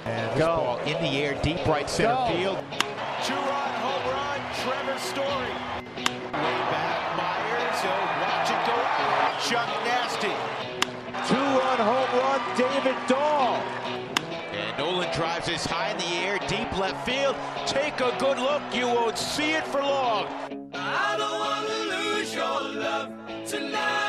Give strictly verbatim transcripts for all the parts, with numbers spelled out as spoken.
And this Go. ball in the air, deep right center Go. field. Two-run home run, Trevor Story. Way back, Myers. He'll watch it go out. Chuck Nasty. Two-run home run, David Dahl. And Nolan drives this high in the air, deep left field. Take a good look. You won't see it for long. I don't want to lose your love tonight.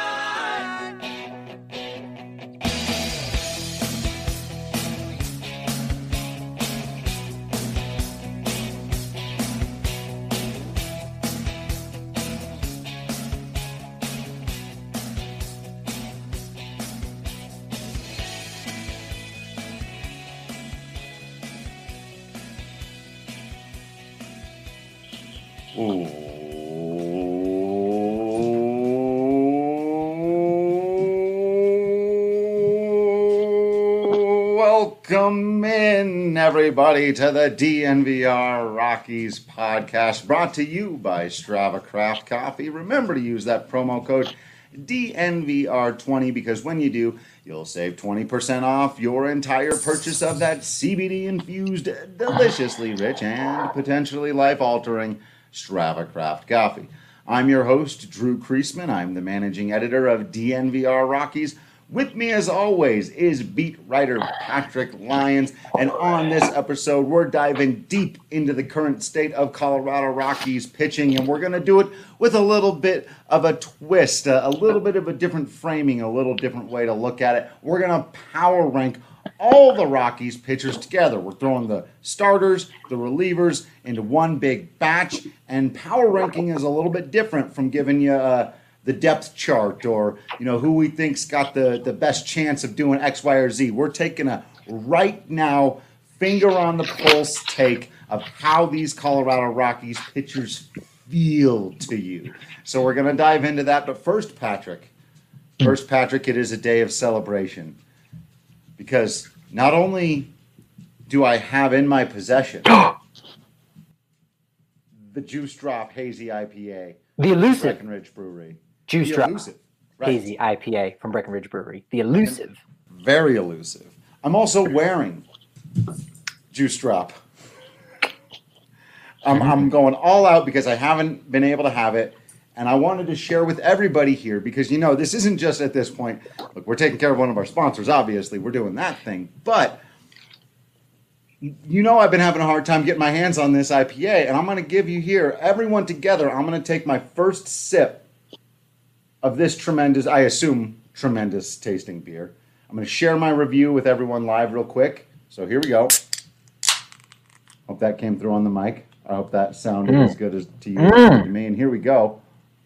Welcome in, everybody, to the D N V R Rockies podcast, brought to you by Strava Craft Coffee. Remember to use that promo code D N V R twenty, because when you do, you'll save twenty percent off your entire purchase of that C B D-infused, deliciously rich, and potentially life-altering Strava Craft Coffee. I'm your host, Drew Kreisman. I'm the managing editor of D N V R Rockies. With me, as always, is beat writer Patrick Lyons. And on this episode, we're diving deep into the current state of Colorado Rockies pitching. And we're going to do it with a little bit of a twist, a, a little bit of a different framing, a little different way to look at it. We're going to power rank all the Rockies pitchers together. We're throwing the starters, the relievers into one big batch. And power ranking is a little bit different from giving you a the depth chart, or, you know, who we think's got the, the best chance of doing X, Y, or Z. We're taking a right now, finger on the pulse take of how these Colorado Rockies pitchers feel to you. So we're going to dive into that. But first, Patrick, first, Patrick, it is a day of celebration, because not only do I have in my possession the Juice Drop Hazy I P A, the elusive Breckenridge Brewery. Juice the Drop elusive, right. Hazy I P A from Breckenridge Brewery. The elusive. Very elusive. I'm also wearing Juice Drop. I'm, I'm going all out because I haven't been able to have it, and I wanted to share with everybody here because, you know, this isn't just at this point. Look, we're taking care of one of our sponsors, obviously. We're doing that thing. But, you know, I've been having a hard time getting my hands on this I P A, and I'm going to give you here, everyone together, I'm going to take my first sip of this tremendous, I assume, tremendous tasting beer. I'm going to share my review with everyone live real quick. So here we go. Hope that came through on the mic. I hope that sounded mm. as good as to you mm. as to me. And here we go.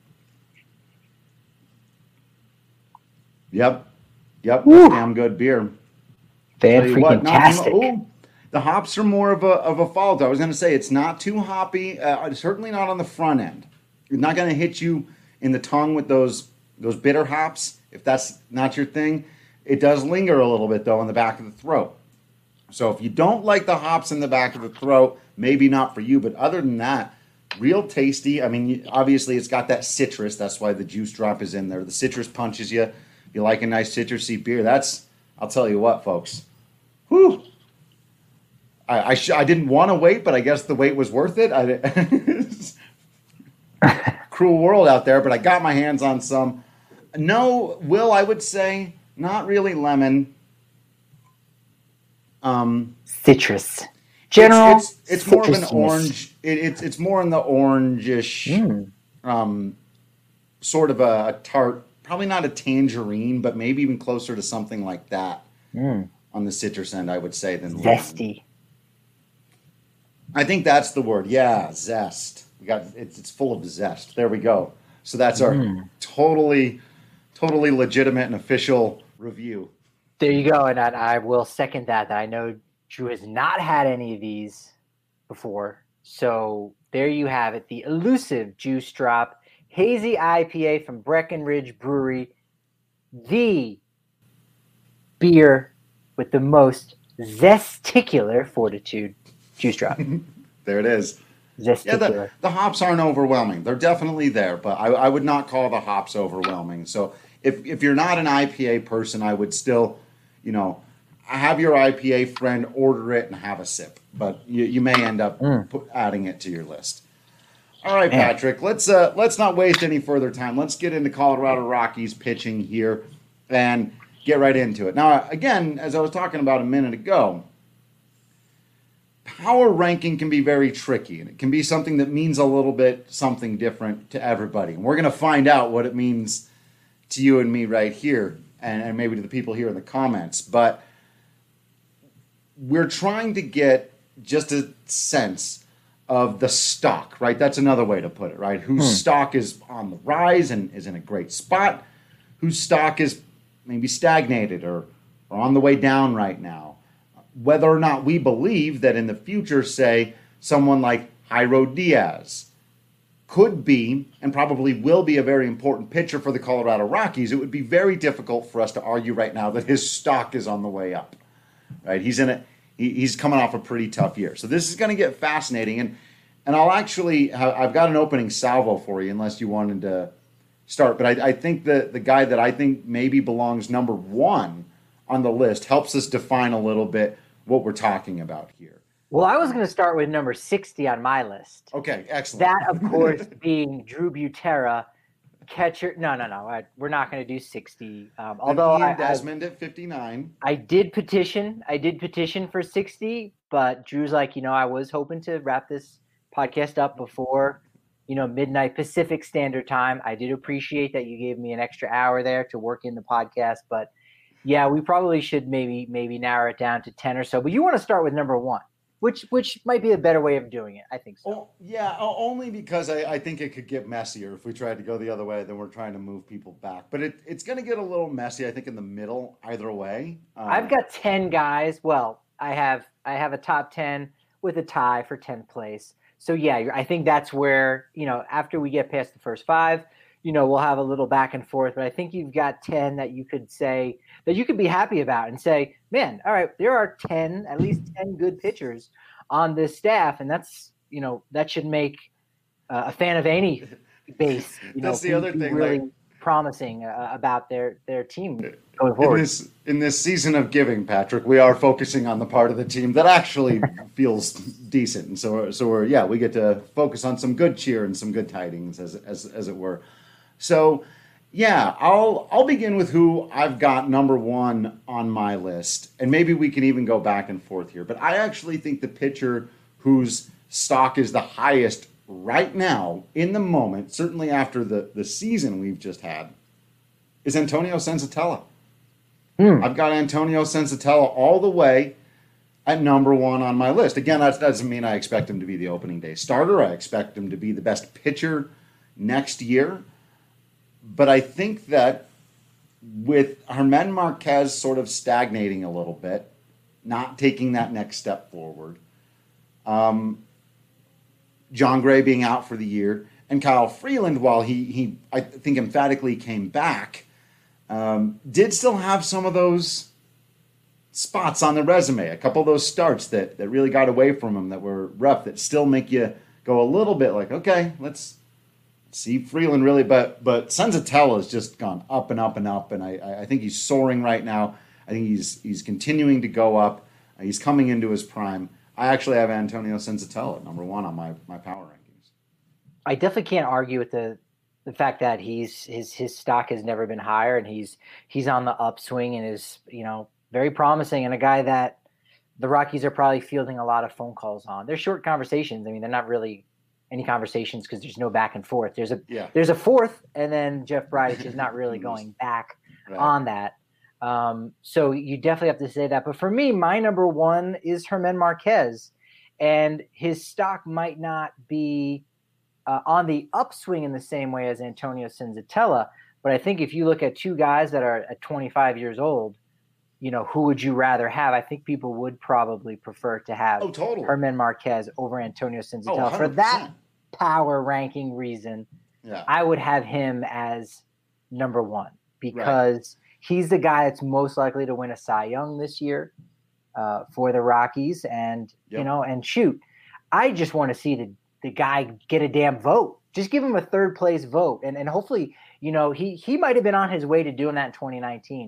Yep. Yep. Damn good beer. Fan-freaking-tastic. The hops are more of a of a fault. I was going to say it's not too hoppy. Uh, certainly not on the front end. It's not going to hit you in the tongue with those those bitter hops, if that's not your thing. It does linger a little bit, though, in the back of the throat. So if you don't like the hops in the back of the throat, maybe not for you. But other than that, real tasty. I mean, obviously, it's got that citrus. That's why the Juice Drop is in there. The citrus punches you. If you like a nice citrusy beer, that's, I'll tell you what, folks. Whew. I I, sh- I didn't want to wait, but I guess the wait was worth it. I Cruel world out there, but I got my hands on some. No, Will, I would say not really lemon. Um, Citrus. General. It's, it's, it's more of an orange. It, it's it's more in the orangish, mm. um, sort of a, a tart. Probably not a tangerine, but maybe even closer to something like that mm. on the citrus end, I would say, than zesty. Lemon. I think that's the word. Yeah, zest. We got it's, it's full of zest. There we go. So that's our mm. totally, totally legitimate and official review. There you go, and I, I will second that. That I know Drew has not had any of these before, so there you have it. The elusive Juice Drop Hazy I P A from Breckenridge Brewery, the beer with the most zesticular fortitude. Juice Drop. There it is. Zesticular. Yeah, the, the hops aren't overwhelming. They're definitely there, but I, I would not call the hops overwhelming. So if if you're not an I P A person, I would still, you know, have your I P A friend order it and have a sip, but you, you may end up Mm. put, adding it to your list. All right, Man. Patrick, let's uh, let's not waste any further time. Let's get into Colorado Rockies pitching here and get right into it. Now, again, as I was talking about a minute ago, power ranking can be very tricky, and it can be something that means a little bit something different to everybody. And we're going to find out what it means to you and me right here, and, and maybe to the people here in the comments. But we're trying to get just a sense of the stock, right? That's another way to put it, right? Whose Hmm. stock is on the rise and is in a great spot, whose stock is maybe stagnated or, or on the way down right now. Whether or not we believe that in the future, say, someone like Jairo Diaz could be and probably will be a very important pitcher for the Colorado Rockies, it would be very difficult for us to argue right now that his stock is on the way up, right? He's in a he, he's coming off a pretty tough year. So this is going to get fascinating. And and I'll actually, I've got an opening salvo for you unless you wanted to start. But I, I think the, the guy that I think maybe belongs number one on the list helps us define a little bit what we're talking about here. Well, I was going to start with number sixty on my list. Okay, excellent. That, of course, being Drew Butera, catcher. No, no, no. I, we're not going to do sixty. Um, although and Ian I, Desmond at fifty-nine. I, I did petition. I did petition for sixty, but Drew's like, you know, I was hoping to wrap this podcast up before, you know, midnight Pacific Standard Time. I did appreciate that you gave me an extra hour there to work in the podcast, but yeah, we probably should maybe maybe narrow it down to ten or so. But you want to start with number one, which which might be a better way of doing it. I think so. Oh, yeah, o- only because I, I think it could get messier if we tried to go the other way. Then we're trying to move people back. But it, it's going to get a little messy, I think, in the middle either way. Um, I've got ten guys. Well, I have I have a top ten with a tie for tenth place. So yeah, you're- I think that's where, you know, after we get past the first five, you know, we'll have a little back and forth. But I think you've got ten that you could say that you could be happy about and say, man, all right, there are ten, at least ten good pitchers on this staff, and that's, you know, that should make uh, a fan of any base, you know, That's the be- other be thing, really like- promising uh, about their their team going in forward. this in this season of giving, Patrick, we are focusing on the part of the team that actually feels decent, and so we're, so we're yeah, we get to focus on some good cheer and some good tidings, as as as it were. So yeah, I'll I'll begin with who I've got number one on my list, and maybe we can even go back and forth here. But I actually think the pitcher whose stock is the highest right now in the moment, certainly after the, the season we've just had, is Antonio Senzatella. Hmm. I've got Antonio Senzatella all the way at number one on my list. Again, that doesn't mean I expect him to be the opening day starter. I expect him to be the best pitcher next year. But I think that with Germán Marquez sort of stagnating a little bit, not taking that next step forward, um, John Gray being out for the year, and Kyle Freeland, while he, he I think emphatically came back, um, did still have some of those spots on the resume, a couple of those starts that, that really got away from him that were rough, that still make you go a little bit like, okay, let's see Freeland really. But but Senzatella has just gone up and up and up, and I, I think he's soaring right now. I think he's he's continuing to go up. He's coming into his prime. I actually have Antonio Senzatella at number one on my, my power rankings. I definitely can't argue with the the fact that he's his his stock has never been higher, and he's he's on the upswing and is, you know, very promising, and a guy that the Rockies are probably fielding a lot of phone calls on. They're short conversations. I mean, they're not really any conversations because there's no back and forth. There's a Yeah. there's a fourth, and then Jeff Bridich is not really going back Right. on that. Um, so you definitely have to say that. But for me, my number one is Germán Marquez, and his stock might not be uh, on the upswing in the same way as Antonio Senzatella. But I think if you look at two guys that are at twenty-five years old, you know, who would you rather have? I think people would probably prefer to have Oh, totally. Germán Marquez over Antonio Oh, Senzatella. For one hundred that percent. power ranking reason, Yeah. I would have him as number one because he's the guy that's most likely to win a Cy Young this year uh, for the Rockies. And, Yep. you know, and shoot, I just want to see the, the guy get a damn vote. Just give him a third place vote. And and hopefully, you know, he, he might have been on his way to doing that in twenty nineteen.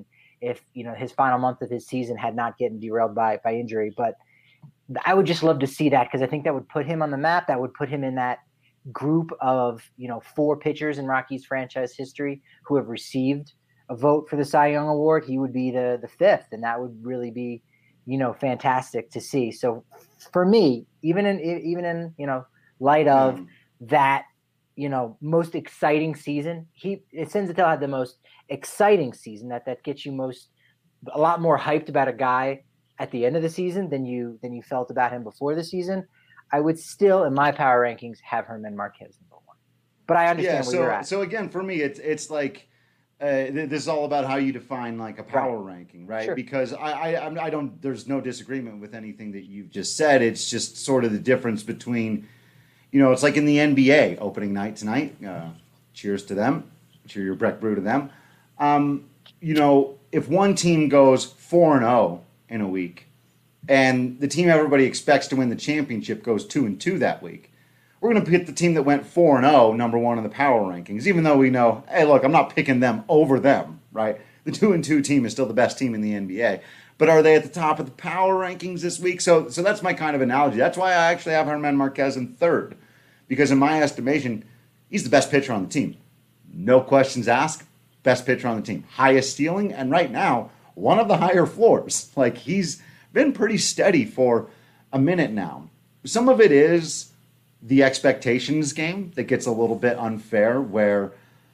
if you know his final month of his season had not gotten derailed by by injury. But I would just love to see that because I think that would put him on the map. That would put him in that group of you know four pitchers in Rockies franchise history who have received a vote for the Cy Young Award. He would be the the fifth, and that would really be you know fantastic to see. So for me, even in even in you know light of mm. that you know most exciting season, he Senzatella had the most exciting season that that gets you most a lot more hyped about a guy at the end of the season than you than you felt about him before the season. I would still, in my power rankings, have German Marquez number one. But I understand yeah, where so, you're at. So again, for me, it's it's like uh, this is all about how you define like a power right. ranking, right? Sure. Because I, I I don't there's no disagreement with anything that you've just said. It's just sort of the difference between, you know, it's like in the N B A opening night tonight. Uh, cheers to them. Cheer your Breck Brew to them. Um, you know, if one team goes four and zero in a week, and the team everybody expects to win the championship goes two and two that week, we're going to pick the team that went four and zero, number one in the power rankings. Even though we know, hey, look, I'm not picking them over them, right? The two and two team is still the best team in the N B A, but are they at the top of the power rankings this week? So, so that's my kind of analogy. That's why I actually have German Marquez in third, because in my estimation, he's the best pitcher on the team. No questions asked. Best pitcher on the team, highest ceiling, and right now, one of the higher floors. Like, he's been pretty steady for a minute now. Some of it is the expectations game that gets a little bit unfair, where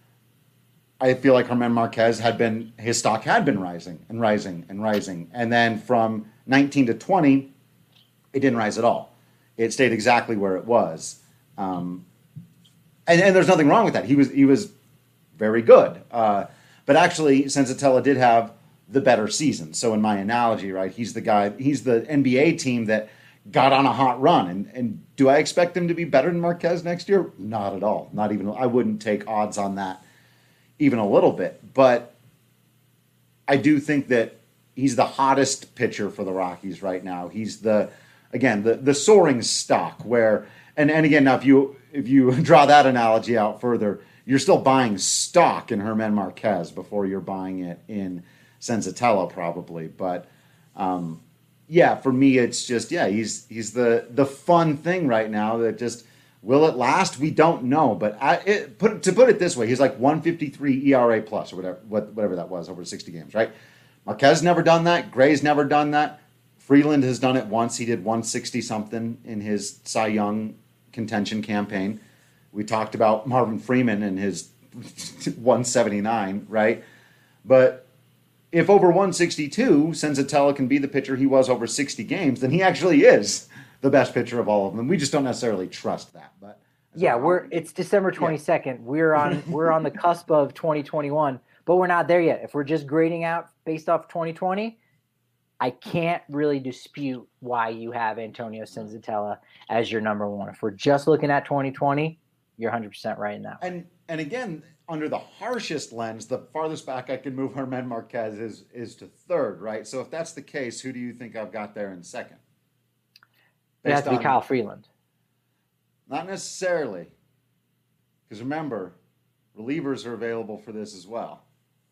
I feel like German Marquez had been, his stock had been rising and rising and rising. And then from nineteen to twenty, it didn't rise at all. It stayed exactly where it was. Um, and, and there's nothing wrong with that. He was, he was very good. Uh, but actually, Senzatella did have the better season. So in my analogy, right, he's the guy, he's the N B A team that got on a hot run. And, and do I expect him to be better than Marquez next year? Not at all. Not even, I wouldn't take odds on that even a little bit. But I do think that he's the hottest pitcher for the Rockies right now. He's the, again, the, the soaring stock where, and, and again, now if you, if you draw that analogy out further, you're still buying stock in German Marquez before you're buying it in Senzatella probably. But um, yeah, for me, it's just, yeah, he's he's the the fun thing right now that just, will it last? We don't know. But I, it, put to put it this way, he's like one fifty-three E R A plus or whatever, what, whatever that was over sixty games, right? Marquez never done that. Gray's never done that. Freeland has done it once. He did one sixty something in his Cy Young contention campaign. We talked about Marvin Freeman and his one seventy-nine, right? But if over one sixty-two, Senzatella can be the pitcher he was over sixty games, then he actually is the best pitcher of all of them. We just don't necessarily trust that. But yeah, we're it's December twenty-second. Yeah. We're on we're on the cusp of twenty twenty-one, but we're not there yet. If we're just grading out based off twenty twenty, I can't really dispute why you have Antonio Senzatella as your number one. If we're just looking at twenty twenty, you're one hundred percent right in that. And and again, under the harshest lens, the farthest back I can move German Marquez is is to third, right? So if that's the case, who do you think I've got there in second? It has to be Kyle Freeland. Not necessarily. Because remember, relievers are available for this as well.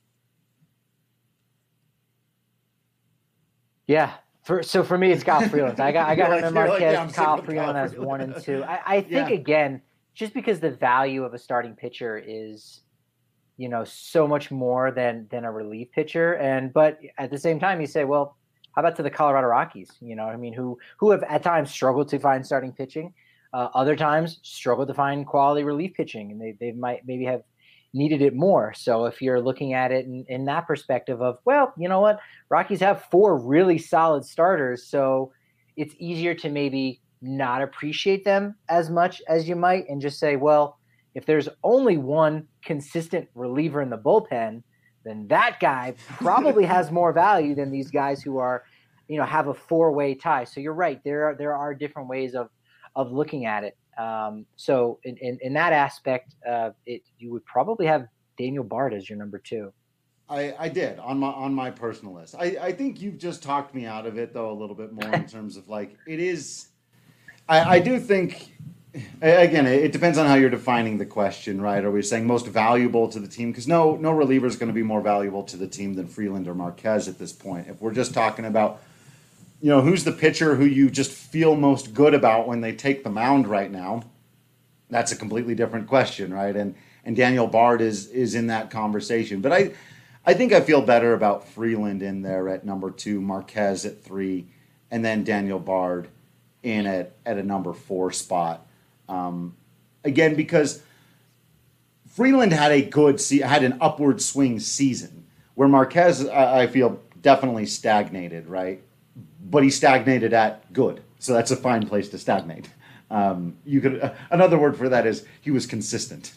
Yeah. For, so for me, it's Kyle Freeland. I got I got German like, Marquez, like, yeah, Kyle Freeland as one and two. I, I think, yeah. again, just because the value of a starting pitcher is, you know, so much more than than a relief pitcher. And but at the same time, you say, well, how about to the Colorado Rockies? You know, I mean, who who have at times struggled to find starting pitching, uh, other times struggled to find quality relief pitching, and they they might maybe have needed it more. So if you're looking at it in, in that perspective of, well, you know what, Rockies have four really solid starters, so it's easier to maybe not appreciate them as much as you might and just say, well, if there's only one consistent reliever in the bullpen, then that guy probably has more value than these guys who are, you know, have a four-way tie. So you're right. There are, there are different ways of, of looking at it. Um, so in, in, in that aspect, uh, it, you would probably have Daniel Bard as your number two. I, I did on my, on my personal list. I, I think you've just talked me out of it though, a little bit more in terms of like, it is, I, I do think again, it depends on how you're defining the question, right? Are we saying most valuable to the team? Because no, no reliever is going to be more valuable to the team than Freeland or Marquez at this point. If we're just talking about, you know, who's the pitcher who you just feel most good about when they take the mound right now, that's a completely different question, right? And and Daniel Bard is is in that conversation. But I, I think I feel better about Freeland in there at number two, Marquez at three, and then Daniel Bard in at, at a number four spot. Um, again, because Freeland had a good, se- had an upward swing season, where Marquez, I, I feel, definitely stagnated, right? But he stagnated at good, so that's a fine place to stagnate. Um, you could uh, another word for that is he was consistent.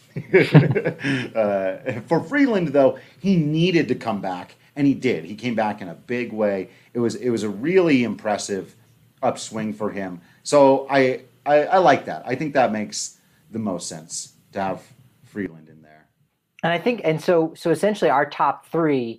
uh, for Freeland, though, he needed to come back, and he did. He came back in a big way. It was it was a really impressive upswing for him. So I. I, I like that. I think that makes the most sense to have Freeland in there. And I think, and so, so essentially, our top three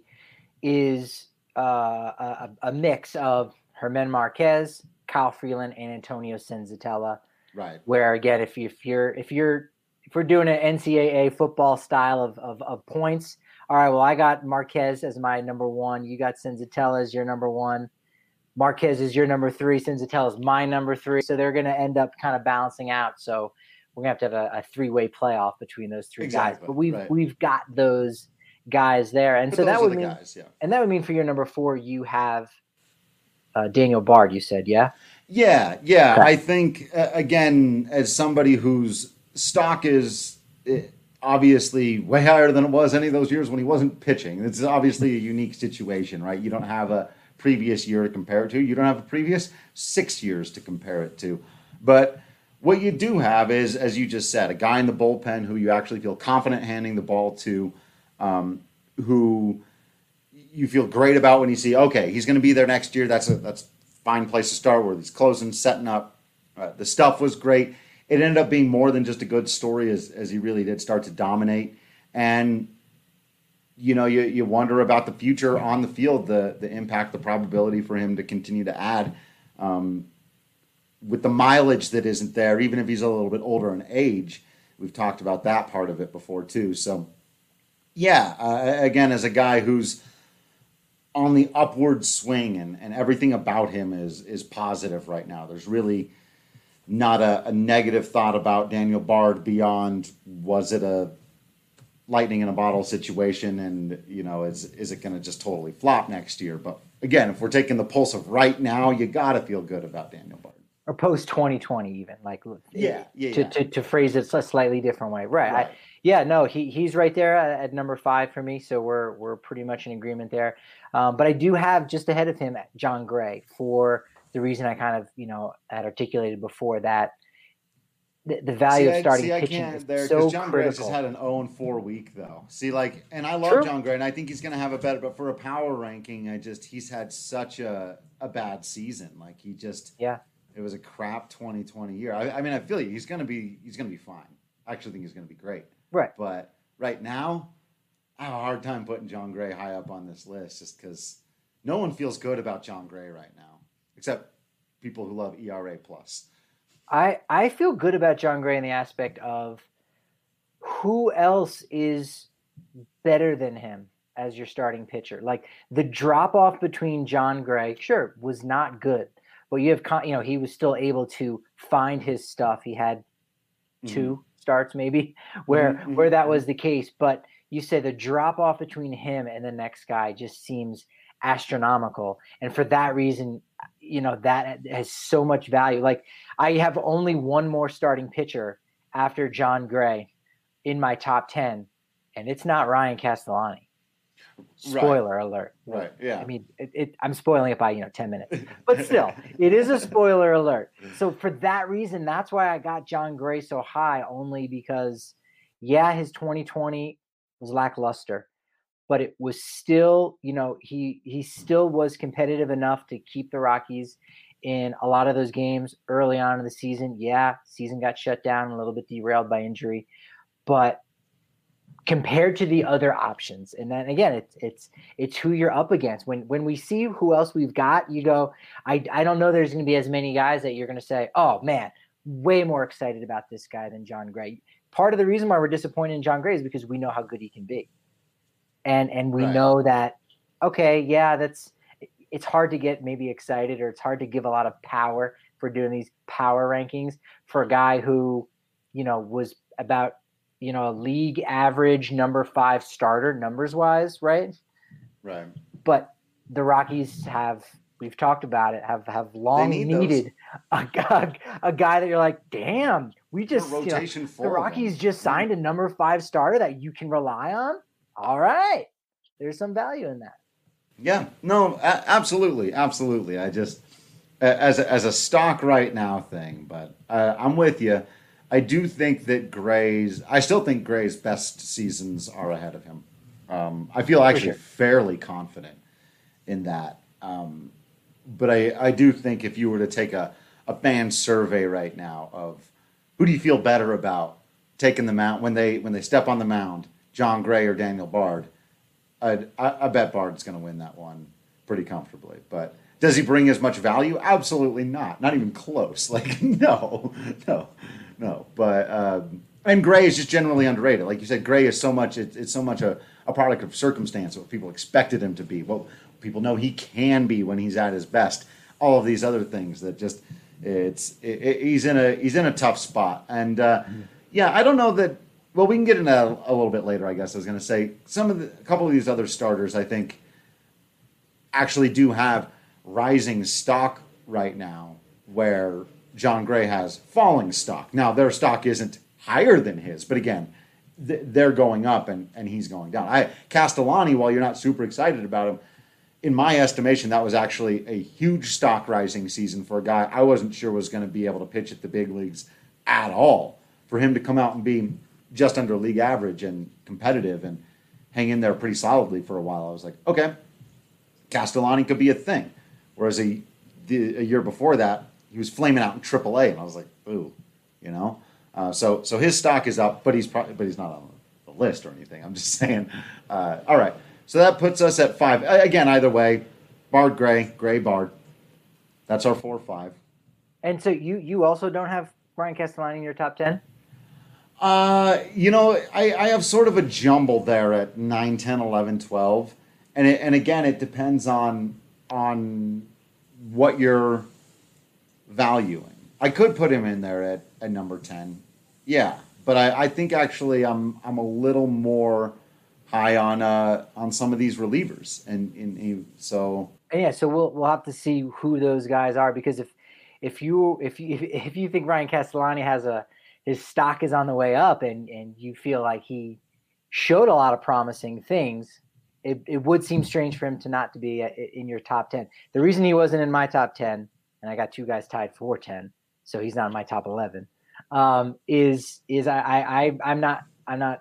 is uh, a, a mix of Germán Marquez, Kyle Freeland, and Antonio Senzatella. Right. Where again, if you if you're if you're if we're doing an N C double A football style of, of of points, all right. Well, I got Marquez as my number one. You got Senzatella as your number one. Marquez is your number three. Senzatella is my number three. So they're going to end up kind of balancing out. So we're going to have to have a, a three-way playoff between those three exactly, guys. But we've right. we've got those guys there, and but so that would the mean, guys, yeah. and that would mean for your number four, you have uh, Daniel Bard. You said, yeah, yeah, yeah. Okay. I think uh, again, as somebody whose stock is uh, obviously way higher than it was any of those years when he wasn't pitching. It's obviously a unique situation, right? You don't have a previous year to compare it to. You don't have a previous six years to compare it to. But what you do have is, as you just said, a guy in the bullpen who you actually feel confident handing the ball to, um, who you feel great about when you see, okay, he's going to be there next year. That's a that's a fine place to start where he's closing, setting up. Uh, the stuff was great. It ended up being more than just a good story as, as he really did start to dominate. And you know, you, you wonder about the future on the field, the the impact, the probability for him to continue to add um, with the mileage that isn't there, even if he's a little bit older in age. We've talked about that part of it before too. So, yeah, uh, again, as a guy who's on the upward swing and, and everything about him is is positive right now. There's really not a, a negative thought about Daniel Bard beyond, was it a lightning in a bottle situation, and you know, is is it going to just totally flop next year? But again, if we're taking the pulse of right now, you got to feel good about Daniel Bard. or post twenty twenty, even like Yeah, yeah, to, yeah. to to phrase it a slightly different way, right? Right. I, yeah, no, he he's right there at, at number five for me, so we're we're pretty much in agreement there. Um, but I do have just ahead of him John Gray for the reason I kind of you know had articulated before, that the, the value see, of I, starting see, I pitching can't is there so John Gray critical. just had an oh and four week though. See, like, and I love True. John Gray, and I think he's going to have a better. But for a power ranking, I just he's had such a a bad season. Like he just Yeah. it was a crap twenty twenty year. I, I mean, I feel you. He's going to be he's going to be fine. I actually think he's going to be great. Right. But right now, I have a hard time putting John Gray high up on this list just because no one feels good about John Gray right now, except people who love E R A plus. I, I feel good about John Gray in the aspect of who else is better than him as your starting pitcher. Like the drop off between John Gray, sure, was not good, but you have, you know, he was still able to find his stuff. He had two mm-hmm. starts maybe where, mm-hmm. where that was the case. But you say the drop off between him and the next guy just seems astronomical. And for that reason, you know, that has so much value. Like I have only one more starting pitcher after John Gray in my top ten, and it's not Ryan Castellani. Spoiler right. alert. Right. Yeah. I mean, it, it, I'm spoiling it by, you know, ten minutes, but still it is a spoiler alert. So for that reason, that's why I got John Gray so high, only because yeah, his twenty twenty was lackluster, but it was still, you know, he he still was competitive enough to keep the Rockies in a lot of those games early on in the season. Yeah, season got shut down, a little bit derailed by injury, but compared to the other options, and then again, it's it's it's who you're up against. When when we see who else we've got, you go, I I don't know there's going to be as many guys that you're going to say, oh man, way more excited about this guy than Jon Gray. Part of the reason why we're disappointed in Jon Gray is because we know how good he can be. And and we Right. know that, okay, yeah, that's it's hard to get maybe excited, or it's hard to give a lot of power for doing these power rankings for a guy who, you know, was about, you know, a league average number five starter numbers wise, right? Right. But the Rockies have, we've talked about it, have have long need needed a, a, a guy that you're like, damn, we just, you know, rotation the full of Rockies them. just signed a number five starter that you can rely on. All right, there's some value in that. Yeah, no, a- absolutely, absolutely. I just, a- as a, as a stock right now thing, but uh, I'm with you. I do think that Gray's, I still think Gray's best seasons are ahead of him. Um, I feel actually sure. fairly confident in that. Um, but I, I do think if you were to take a, a fan survey right now of who do you feel better about taking the mound when they when they step on the mound, Jon Gray or Daniel Bard, I'd, I, I bet Bard's going to win that one pretty comfortably. But does he bring as much value? Absolutely not. Not even close. Like, no, no, no. But um, and Gray is just generally underrated. Like you said, Gray is so much. It, it's so much a, a product of circumstance. What people expected him to be. What people know he can be when he's at his best. All of these other things that just it's it, it, he's in a he's in a tough spot. And uh, yeah, I don't know that. Well, we can get into that a little bit later, I guess. I was going to say some of the, a couple of these other starters, I think, actually do have rising stock right now, where Jon Gray has falling stock. Now, their stock isn't higher than his, but again, th- they're going up and, and he's going down. I Castellani, while you're not super excited about him, in my estimation, that was actually a huge stock rising season for a guy I wasn't sure was going to be able to pitch at the big leagues at all. For him to come out and be just under league average and competitive and hang in there pretty solidly for a while, I was like, okay, Castellani could be a thing. Whereas a, the, a year before that, he was flaming out in triple A, and I was like, ooh, you know. Uh, so so his stock is up, but he's probably but he's not on the list or anything. I'm just saying. Uh, all right, so that puts us at five. Again, either way, Bard, Gray, Gray, Bard. That's our four or five. And so you you also don't have Ryan Castellani in your top ten? Uh, you know, I, I have sort of a jumble there at nine, ten, eleven, twelve. And it, and again, it depends on on what you're valuing. I could put him in there at, at number ten. Yeah. But I, I think actually I'm I'm a little more high on uh on some of these relievers. And, and, and so And yeah, so we'll we'll have to see who those guys are, because if if you if you if you think Ryan Castellani has a his stock is on the way up, and, and you feel like he showed a lot of promising things, it, it would seem strange for him to not to be in your top ten. The reason he wasn't in my top ten, and I got two guys tied for ten, so he's not in my top eleven, um, is is I, I I'm not I'm not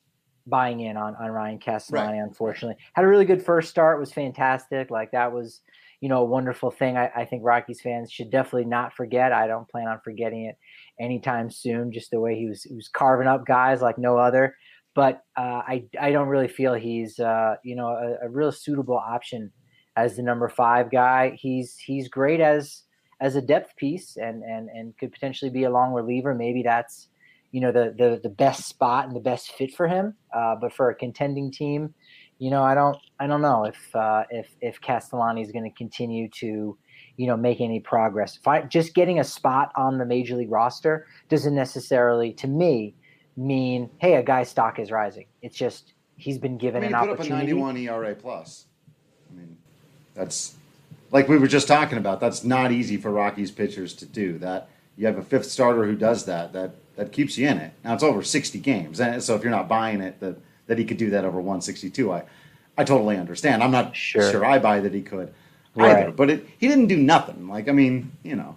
buying in on, on Ryan Castellani, right. Unfortunately. Had a really good first start, was fantastic. Like that was, you know, a wonderful thing. I, I think Rockies fans should definitely not forget. I don't plan on forgetting it anytime soon, just the way he was, he was carving up guys like no other. But uh, I, I don't really feel he's, uh, you know, a, a real suitable option as the number five guy. He's he's great as as a depth piece and and and could potentially be a long reliever. Maybe that's, you know, the the the best spot and the best fit for him. Uh, but for a contending team, you know, I don't I don't know if uh, if if Castellani is going to continue to, you know, make any progress. If I, just getting a spot on the major league roster doesn't necessarily, to me, mean, hey, a guy's stock is rising. It's just he's been given I mean, an you put opportunity. up a ninety-one E R A plus. I mean, that's like we were just talking about. That's not easy for Rockies pitchers to do. That you have a fifth starter who does that. That that keeps you in it. Now it's over sixty games, and so if you're not buying it, that that he could do that over one sixty-two, I I totally understand. I'm not sure, sure I buy that he could either. Right. But it, he didn't do nothing. Like I mean, you know.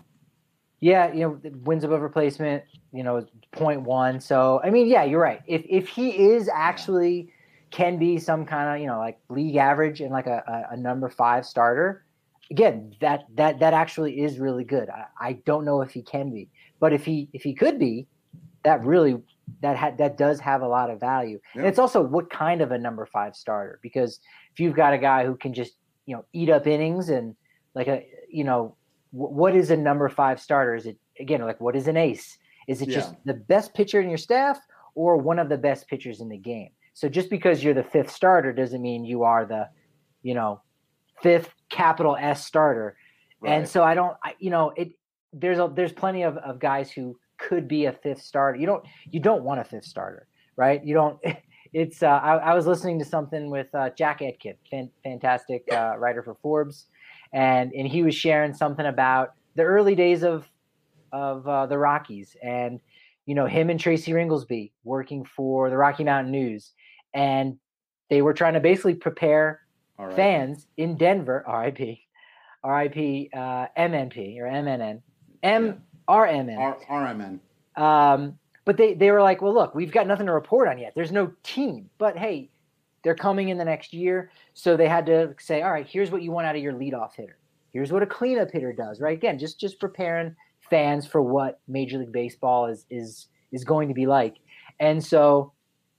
Yeah, you know, wins above replacement, you know, point one. So, I mean, yeah, you're right. If if he is actually yeah. can be some kind of, you know, like league average and like a, a, a number five starter, again, that that that actually is really good. I, I don't know if he can be, but if he if he could be, that really that ha- that does have a lot of value. Yeah. And it's also what kind of a number five starter, because if you've got a guy who can just, you know, eat up innings and like a, you know, w- what is a number five starter? Is it, again, like what is an ace? Is it Yeah. just the best pitcher in your staff or one of the best pitchers in the game? So just because you're the fifth starter doesn't mean you are the, you know, fifth capital S starter. Right. And so I don't, I, you know, it, there's a, there's plenty of, of guys who could be a fifth starter. You don't, you don't want a fifth starter, right? You don't, it's, uh, I, I was listening to something with uh, Jack Etkin, fan, fantastic uh, writer for Forbes. And, and he was sharing something about the early days of, of uh, the Rockies, and, you know, him and Tracy Ringlesby working for the Rocky Mountain News. And they were trying to basically prepare All right. fans in Denver, R I P, R I P, uh, M N P or M N N, M R M N. R- RMN. Um, but they, they were like, well, look, we've got nothing to report on yet. There's no team, but hey, they're coming in the next year. So they had to say, all right, here's what you want out of your leadoff hitter. Here's what a cleanup hitter does, right? Again, just, just preparing fans for what Major League Baseball is, is, is going to be like. And so,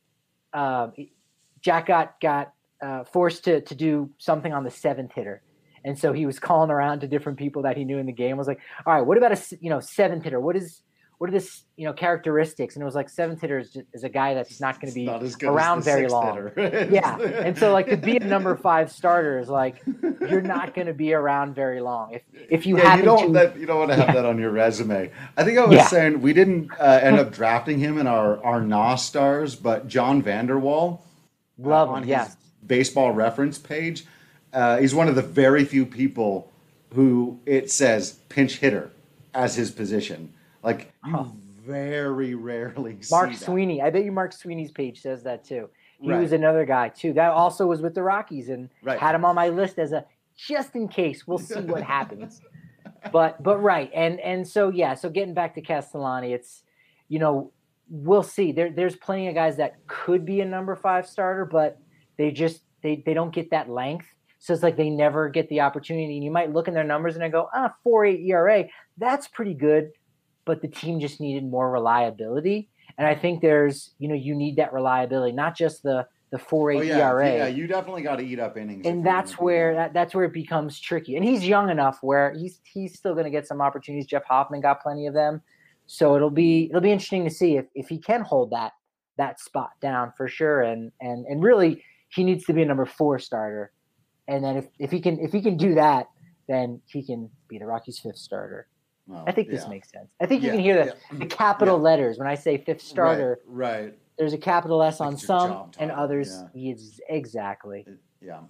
um, Jack got, got, uh, forced to, to do something on the seventh hitter. And so he was calling around to different people that he knew in the game. I was like, all right, what about a, you know, seventh hitter? What is, what are this, you know, characteristics? And it was like seventh hitter is, just, is a guy that's not going to be Not as good as around the very sixth long. hitter. Yeah. And so like to be a number five starter is like, you're not going to be around very long. If, if you Yeah, happen you don't to, that, you don't want to have Yeah. that on your resume. I think I was Yeah. saying we didn't uh, end up drafting him in our our N O S stars, but John Vanderwall love uh, on him. his Yes. baseball reference page, uh, he's one of the very few people who it says pinch hitter as his position. Like you Huh. very rarely Mark see that. Sweeney. I bet you Mark Sweeney's page says that too. He Right. was another guy too. That also was with the Rockies and Right. had him on my list as a just in case. We'll see what happens. But but right. And and so yeah, so getting back to Castellani, it's, you know, we'll see. There there's plenty of guys that could be a number five starter, but they just they they don't get that length. So it's like they never get the opportunity. And you might look in their numbers and I go, ah, four eight E R A, that's pretty good. But the team just needed more reliability. And I think there's, you know, you need that reliability, not just the the four eight Oh, yeah, E R A. yeah, you definitely got to eat up innings. if And you're that's gonna do where that. that, that's where it becomes tricky. And he's young enough where he's he's still going to get some opportunities. Jeff Hoffman got plenty of them, so it'll be it'll be interesting to see if, if he can hold that that spot down for sure. And and and really, he needs to be a number four starter. And then if, if he can if he can do that, then he can be the Rockies' fifth starter. Well, I think this yeah. makes sense. I think you Yeah, can hear the, yeah. the capital Yeah. letters when I say fifth starter. Right. right. There's a capital S on It's your some, job and title, others. yeah. Is exactly. Yeah.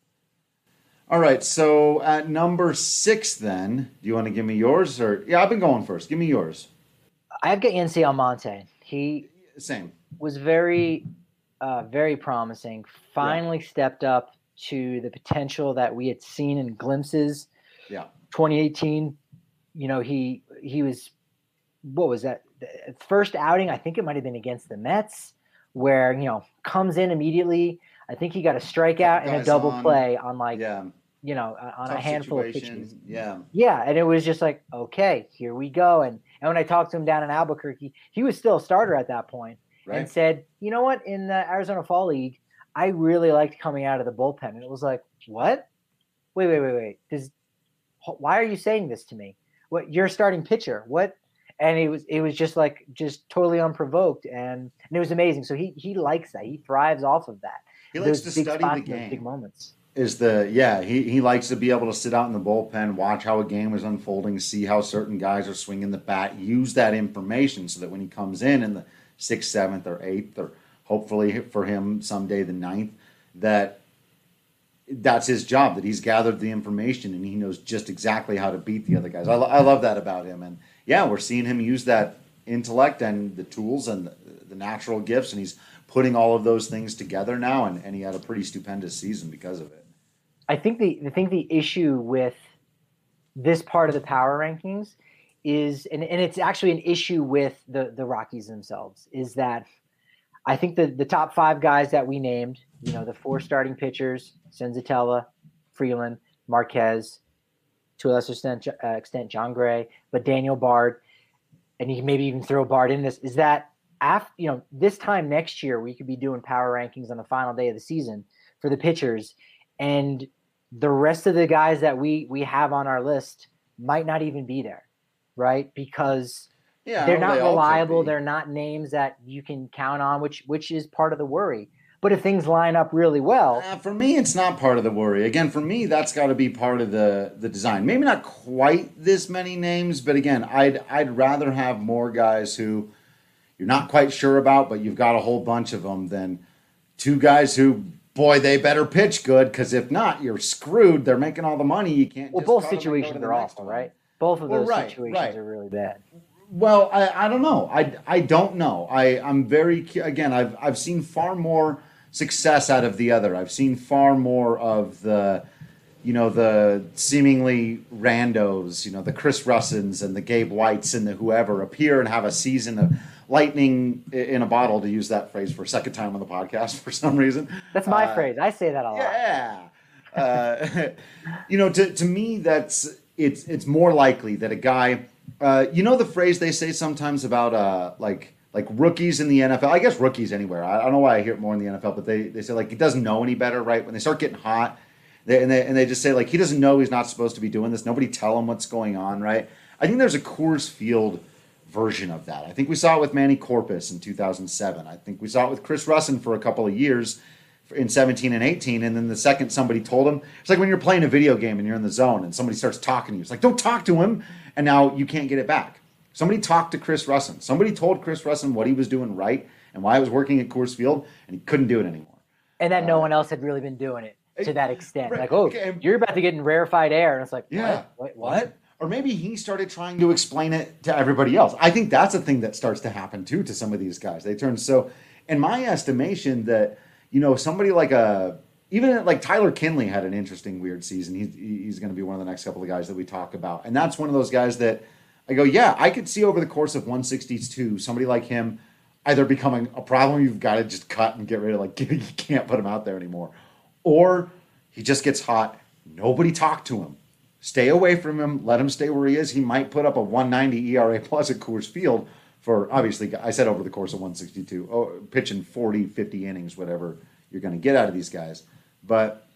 All right. So at number six, then, do you want to give me yours or? Yeah, I've been going first. Give me yours. I've got Yancy Almonte. He Same. was very, uh, very promising. Finally stepped up to the potential that we had seen in glimpses. Yeah. twenty eighteen, you know, he he was, what was that? The first outing, I think it might have been against the Mets, where, you know, comes in immediately. I think he got a strikeout and a Guys double on. play on like, Yeah. you know, on Tough a handful of situation. pitches. Yeah. Yeah, and it was just like, okay, here we go. And and when I talked to him down in Albuquerque, he was still a starter at that point, and Right. said, you know what, in the Arizona Fall League, I really liked coming out of the bullpen. And it was like, what? Wait, wait, wait, wait. Does why are you saying this to me? What, you're a starting pitcher? What? And it was it was just like just totally unprovoked, and, and it was amazing. So he he likes that. He thrives off of that. He likes to Those big study spots the and those game. big moments. Is the yeah he, he likes to be able to sit out in the bullpen, watch how a game is unfolding, see how certain guys are swinging the bat, use that information so that when he comes in in the sixth, seventh, or eighth, or hopefully for him someday the ninth, that that's his job, that he's gathered the information and he knows just exactly how to beat the other guys. I, lo- I love that about him. And yeah, we're seeing him use that intellect and the tools and the, the natural gifts, and he's putting all of those things together now, and, and he had a pretty stupendous season because of it. I think the I think the issue with this part of the power rankings is, and, and it's actually an issue with the, the Rockies themselves, is that I think the, the top five guys that we named, you know, the four starting pitchers, Senzatella, Freeland, Marquez, to a lesser extent, uh, extent John Gray, but Daniel Bard, and you can maybe even throw Bard in this, is that after, you know, this time next year, we could be doing power rankings on the final day of the season for the pitchers, and the rest of the guys that we we have on our list might not even be there, right? Because Yeah, they're well, not they all could reliable. be. They're not names that you can count on, which which is part of the worry. But if things line up really well, Uh, for me, it's not part of the worry. Again, for me, that's got to be part of the the design. Maybe not quite this many names, but again, I'd I'd rather have more guys who you're not quite sure about, but you've got a whole bunch of them than two guys who, boy, they better pitch good, because if not, you're screwed. They're making all the money. You can't. well, just both cut 'em and go to situations the are next awful, one. right? Both of Well, those right, situations right. are really bad. Well, I, I don't know. I, I don't know. I, I'm very, cu- again, I've, I've seen far more success out of the other. I've seen far more of the, you know, the seemingly randos, you know, the Chris Russins and the Gabe Whites and the whoever appear and have a season of lightning i- in a bottle, to use that phrase for a second time on the podcast for some reason. That's my Uh, phrase. I say that a lot. Yeah. Uh, you know, to, to me, that's it's it's more likely that a guy, uh, you know, the phrase they say sometimes about uh, like like rookies in the N F L. I guess rookies anywhere. I, I don't know why I hear it more in the N F L, but they, they say like he doesn't know any better, right? When they start getting hot, they, and they and they just say like he doesn't know he's not supposed to be doing this. Nobody tell him what's going on, right? I think there's a Coors Field version of that. I think we saw it with Manny Corpus in two thousand seven. I think we saw it with Chris Russin for a couple of years in seventeen and eighteen, and then the second somebody told him, it's like when you're playing a video game and you're in the zone and somebody starts talking to you. It's like, don't talk to him, and now you can't get it back. Somebody talked to Chris Russin. Somebody told Chris Russin what he was doing right and why he was working at Coors Field, and he couldn't do it anymore. And that no one else had really been doing it to that extent. right, Like, oh, okay. you're about to get in rarefied air. And it's like, Yeah. what? What? what? Or maybe he started trying to explain it to everybody else. I think that's a thing that starts to happen too to some of these guys. They turn so, in my estimation, that you know somebody like a even like Tyler Kinley had an interesting weird season. He's he's going to be one of the next couple of guys that we talk about, and that's one of those guys that I go, yeah, I could see over the course of one sixty-two somebody like him either becoming a problem you've got to just cut and get rid of, like you can't put him out there anymore, or he just gets hot. Nobody talked to him. Stay away from him. Let him stay where he is. He might put up a one ninety E R A plus at Coors Field for, obviously, I said over the course of one sixty-two, oh, pitching forty, fifty innings, whatever you're going to get out of these guys. But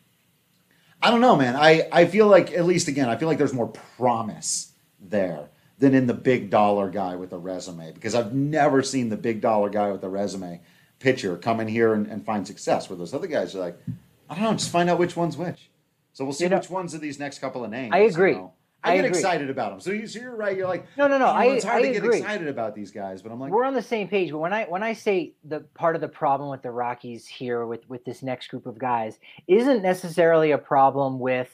I don't know, man. I, I feel like, at least again, I feel like there's more promise there than in the big dollar guy with a resume, because I've never seen the big dollar guy with a resume pitcher come in here and, and find success, where those other guys are like, I don't know, just find out which one's which. So we'll see You know, which ones of these next couple of names. I agree. You know. I, I get agree. excited about them. So, you, so you're right. You're like, No, no, no, you know, I- it's hard I to get agree. excited about these guys, but I'm like, We're on the same page. But when I when I say the part of the problem with the Rockies here with with this next group of guys isn't necessarily a problem with,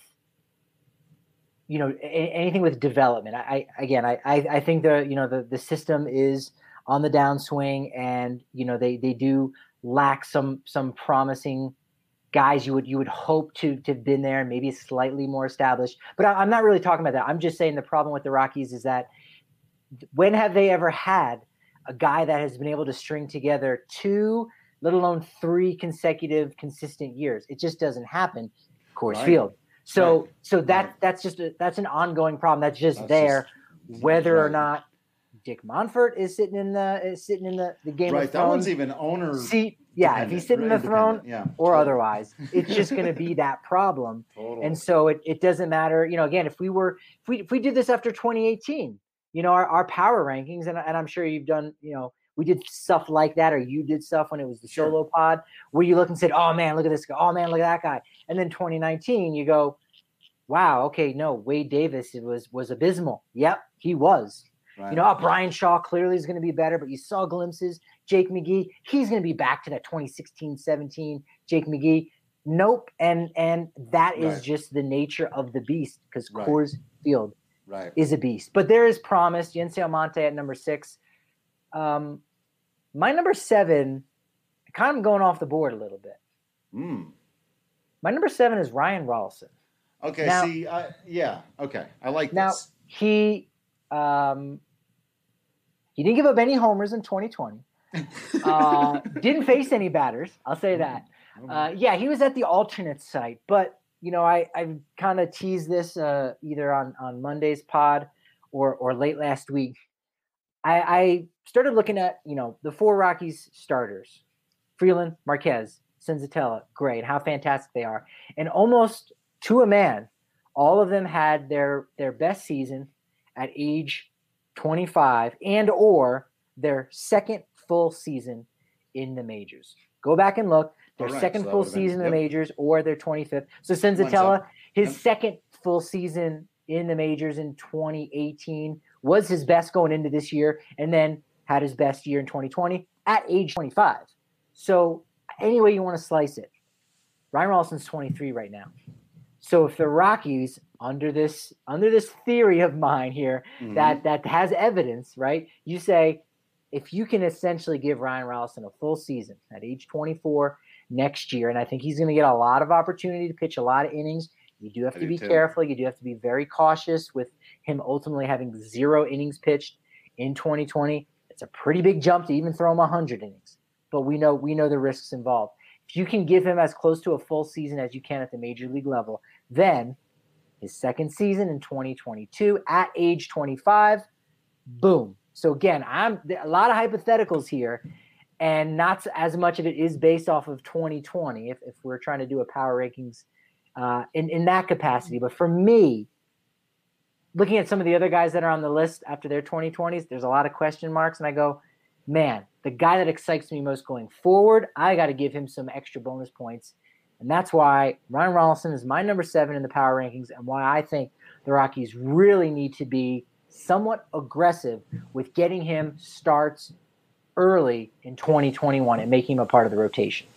you know, a, anything with development. I, I again, I, I I think the you know the the system is on the downswing, and you know they they do lack some some promising guys you would you would hope to to have been there and maybe slightly more established. But I, I'm not really talking about that. I'm just saying the problem with the Rockies is that when have they ever had a guy that has been able to string together two, let alone three consecutive consistent years? It just doesn't happen. Coors Right. Field. So Right. so that Right. that's just a, that's an ongoing problem. That's just That's there, just- whether or right. not Dick Monfort is sitting in the is sitting in the, the Game right. of That Thrones one's even owner. seat. Yeah, if he's sitting in the throne independent, yeah, or totally. otherwise, it's just going to be that problem. Totally. And so it, it doesn't matter. You know, again, if we were if we if we did this after twenty eighteen, you know, our, our power rankings, and, and I'm sure you've done, you know, we did stuff like that, or you did stuff when it was the Sure. solo pod, where you look and said, oh man, look at this guy, oh man, look at that guy. And then twenty nineteen, you go, wow, okay, no, Wade Davis it was was abysmal. Yep, he was. Right. You know, oh, Brian Shaw clearly is going to be better, but you saw glimpses. Jake McGee, he's going to be back to that twenty sixteen seventeen Jake McGee. Nope. And and that is Right. just the nature of the beast, because Right. Coors Field right. is a beast. But there is promise. Yency Almonte at number six. Um, my number seven, kind of going off the board a little bit. Mm. My number seven is Ryan Rolison. Okay. Now- see, I, yeah. Okay. I like Now, this. he um, he didn't give up any homers in twenty twenty. Uh, didn't face any batters. I'll say that. Uh, yeah, he was at the alternate site, but you know, I I kind of teased this uh, either on on Monday's pod or or late last week. I, I started looking at you know the four Rockies starters: Freeland, Marquez, Senzatella. Great, how fantastic they are, and almost to a man, all of them had their their best season at age twenty-five and or their second full season in the majors. Go back and look. Their right, second so full been, season yep. in the majors or their twenty-fifth. So Senzatella, his yep. second full season in the majors in twenty eighteen was his best going into this year, and then had his best year in twenty twenty at age twenty-five. So any way you want to slice it, Ryan Rollison's twenty-three right now. So if the Rockies, under this under this theory of mine here, mm-hmm. that that has evidence, right? You say, if you can essentially give Ryan Rollison a full season at age twenty-four next year, and I think he's going to get a lot of opportunity to pitch a lot of innings. You do have I to be too. careful. You do have to be very cautious with him ultimately having zero innings pitched in twenty twenty. It's a pretty big jump to even throw him one hundred innings. But we know we know the risks involved. If you can give him as close to a full season as you can at the major league level, then his second season in twenty twenty-two at age twenty-five, boom. So again, I'm a lot of hypotheticals here, and not as much of it is based off of twenty twenty if, if we're trying to do a power rankings uh, in, in that capacity. But for me, looking at some of the other guys that are on the list after their twenty twenties, there's a lot of question marks, and I go, man, the guy that excites me most going forward, I got to give him some extra bonus points. And that's why Ryan Rollison is my number seven in the power rankings, and why I think the Rockies really need to be somewhat aggressive with getting him starts early in twenty twenty-one and making him a part of the rotation.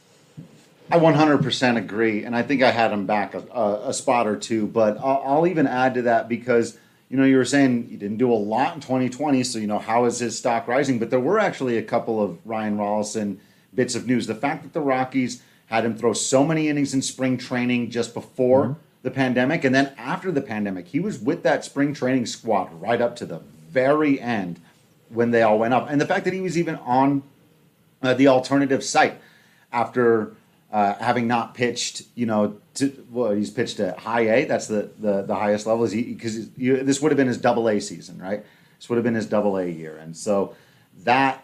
I one hundred percent agree, and I think I had him back a, a, a spot or two, but I'll, I'll even add to that because, you know, you were saying he didn't do a lot in twenty twenty, so, you know, how is his stock rising? But there were actually a couple of Ryan Rollison bits of news. The fact that the Rockies had him throw so many innings in spring training just before mm-hmm. the pandemic, and then after the pandemic, he was with that spring training squad right up to the very end when they all went up. And the fact that he was even on uh, the alternative site after uh, having not pitched, you know, to, well, he's pitched at high A. That's the, the, the highest level. Is he, because this would have been his double A season, right? This would have been his double A year. And so that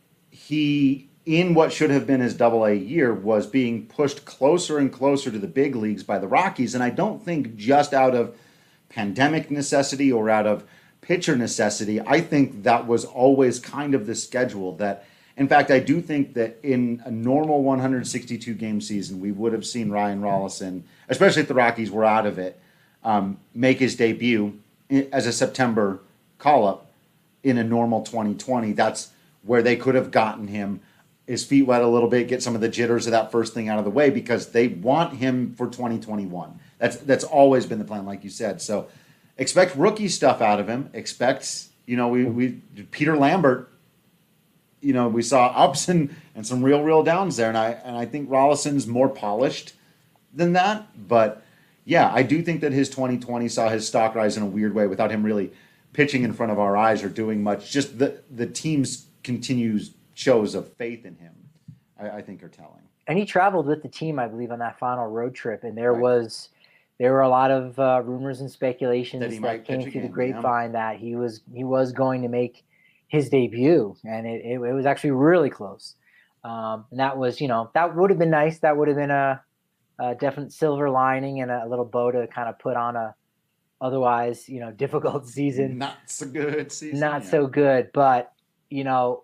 he, in what should have been his double A year, was being pushed closer and closer to the big leagues by the Rockies. And I don't think just out of pandemic necessity or out of pitcher necessity. I think that was always kind of the schedule. That, in fact, I do think that in a normal one hundred sixty-two game season, we would have seen Ryan Rollison, especially if the Rockies were out of it, um, make his debut as a September call-up in a normal twenty twenty. That's where they could have gotten him his feet wet a little bit, get some of the jitters of that first thing out of the way, because they want him for twenty twenty-one. That's that's always been the plan, like you said. So expect rookie stuff out of him. Expect, you know, we, we Peter Lambert, you know, we saw ups and, and some real, real downs there. And I and I think Rollison's more polished than that. But, yeah, I do think that his twenty twenty saw his stock rise in a weird way without him really pitching in front of our eyes or doing much. Just the, the team's continues shows of faith in him, I, I think, are telling. And he traveled with the team, I believe, on that final road trip. And there right. was there were a lot of uh, rumors and speculations that, that came through again, the grapevine yeah. that he was he was going to make his debut, and it, it, it was actually really close. Um, and that was, you know, that would have been nice. That would have been a, a definite silver lining and a little bow to kind of put on a otherwise, you know, difficult season. Not so good season. Not yeah. so good, but, you know,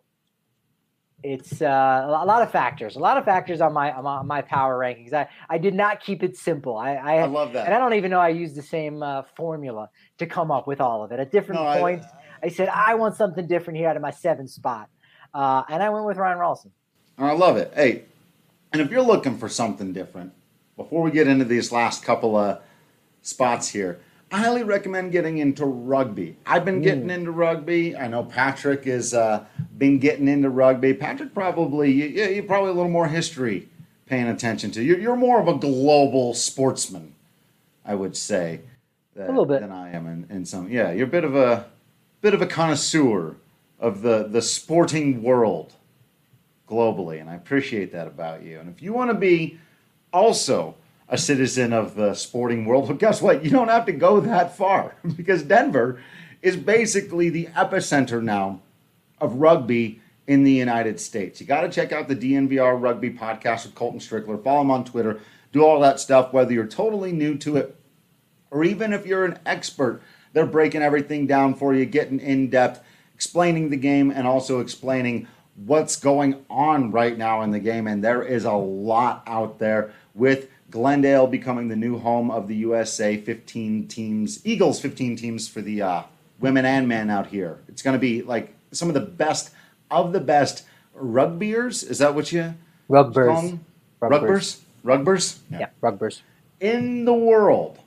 it's uh, a lot of factors, a lot of factors on my on my power rankings. I, I did not keep it simple. I, I, I love that. And I don't even know I used the same uh, formula to come up with all of it. At different no, points, I, I said, I want something different here out of my seventh spot. Uh, and I went with Ryan Rollison. I love it. Hey, and if you're looking for something different, before we get into these last couple of spots here, I highly recommend getting into rugby. I've been getting mm. into rugby. I know Patrick has uh, been getting into rugby. Patrick probably, you, you're probably a little more history paying attention to. You're, you're more of a global sportsman, I would say, that, a little bit than I am in, in some. Yeah, you're a bit of a bit of a connoisseur of the, the sporting world globally, and I appreciate that about you. And if you want to be also a citizen of the sporting world, well, guess what? You don't have to go that far, because Denver is basically the epicenter now of rugby in the United States. You got to check out the D N V R Rugby Podcast with Colton Strickler. Follow him on Twitter. Do all that stuff, whether you're totally new to it or even if you're an expert, they're breaking everything down for you, getting in depth, explaining the game, and also explaining what's going on right now in the game. And there is a lot out there with Glendale becoming the new home of the U S A fifteen teams, Eagles fifteen teams for the uh, women and men out here. It's going to be like some of the best of the best rugbyers. Is that what you Rugbers. call them? Rugbers? Rugbers? Yeah, yeah rugbers. In the world.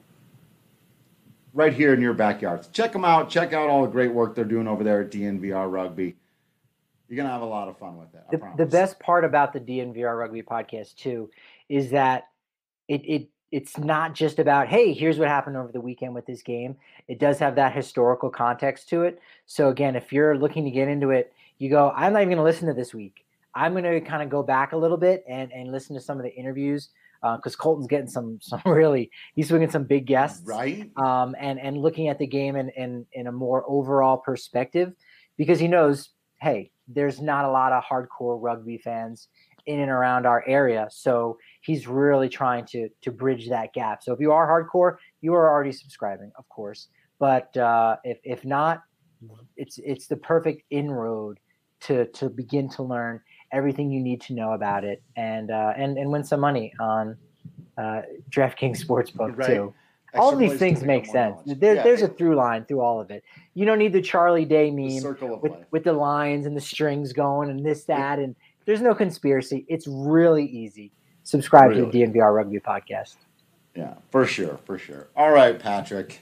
Right here in your backyard. Check them out. Check out all the great work they're doing over there at D N V R Rugby. You're going to have a lot of fun with it. I The, promise. the best part about the D N V R Rugby podcast, too, is that it, it it's not just about, hey, here's what happened over the weekend with this game. It does have that historical context to it. So, again, if you're looking to get into it, you go, I'm not even going to listen to this week. I'm going to kind of go back a little bit and, and listen to some of the interviews because uh, Colton's getting some some really – he's swinging some big guests. Right. Um, and, and looking at the game in, in, in a more overall perspective because he knows, hey, there's not a lot of hardcore rugby fans in and around our area. So he's really trying to to bridge that gap. So if you are hardcore, you are already subscribing, of course. But uh, if if not, it's it's the perfect inroad to to begin to learn everything you need to know about it and uh, and and win some money on uh, DraftKings Sportsbook Right. too. Extra All these place to things pick make up more sense. knowledge. There, Yeah, there's a it- through line through all of it. You don't need the Charlie Day The meme circle of with, life. with the lines and the strings going and this, that, and there's no conspiracy. It's really easy. Subscribe to Really? the D N V R Rugby podcast. Yeah, for sure, for sure. All right, Patrick.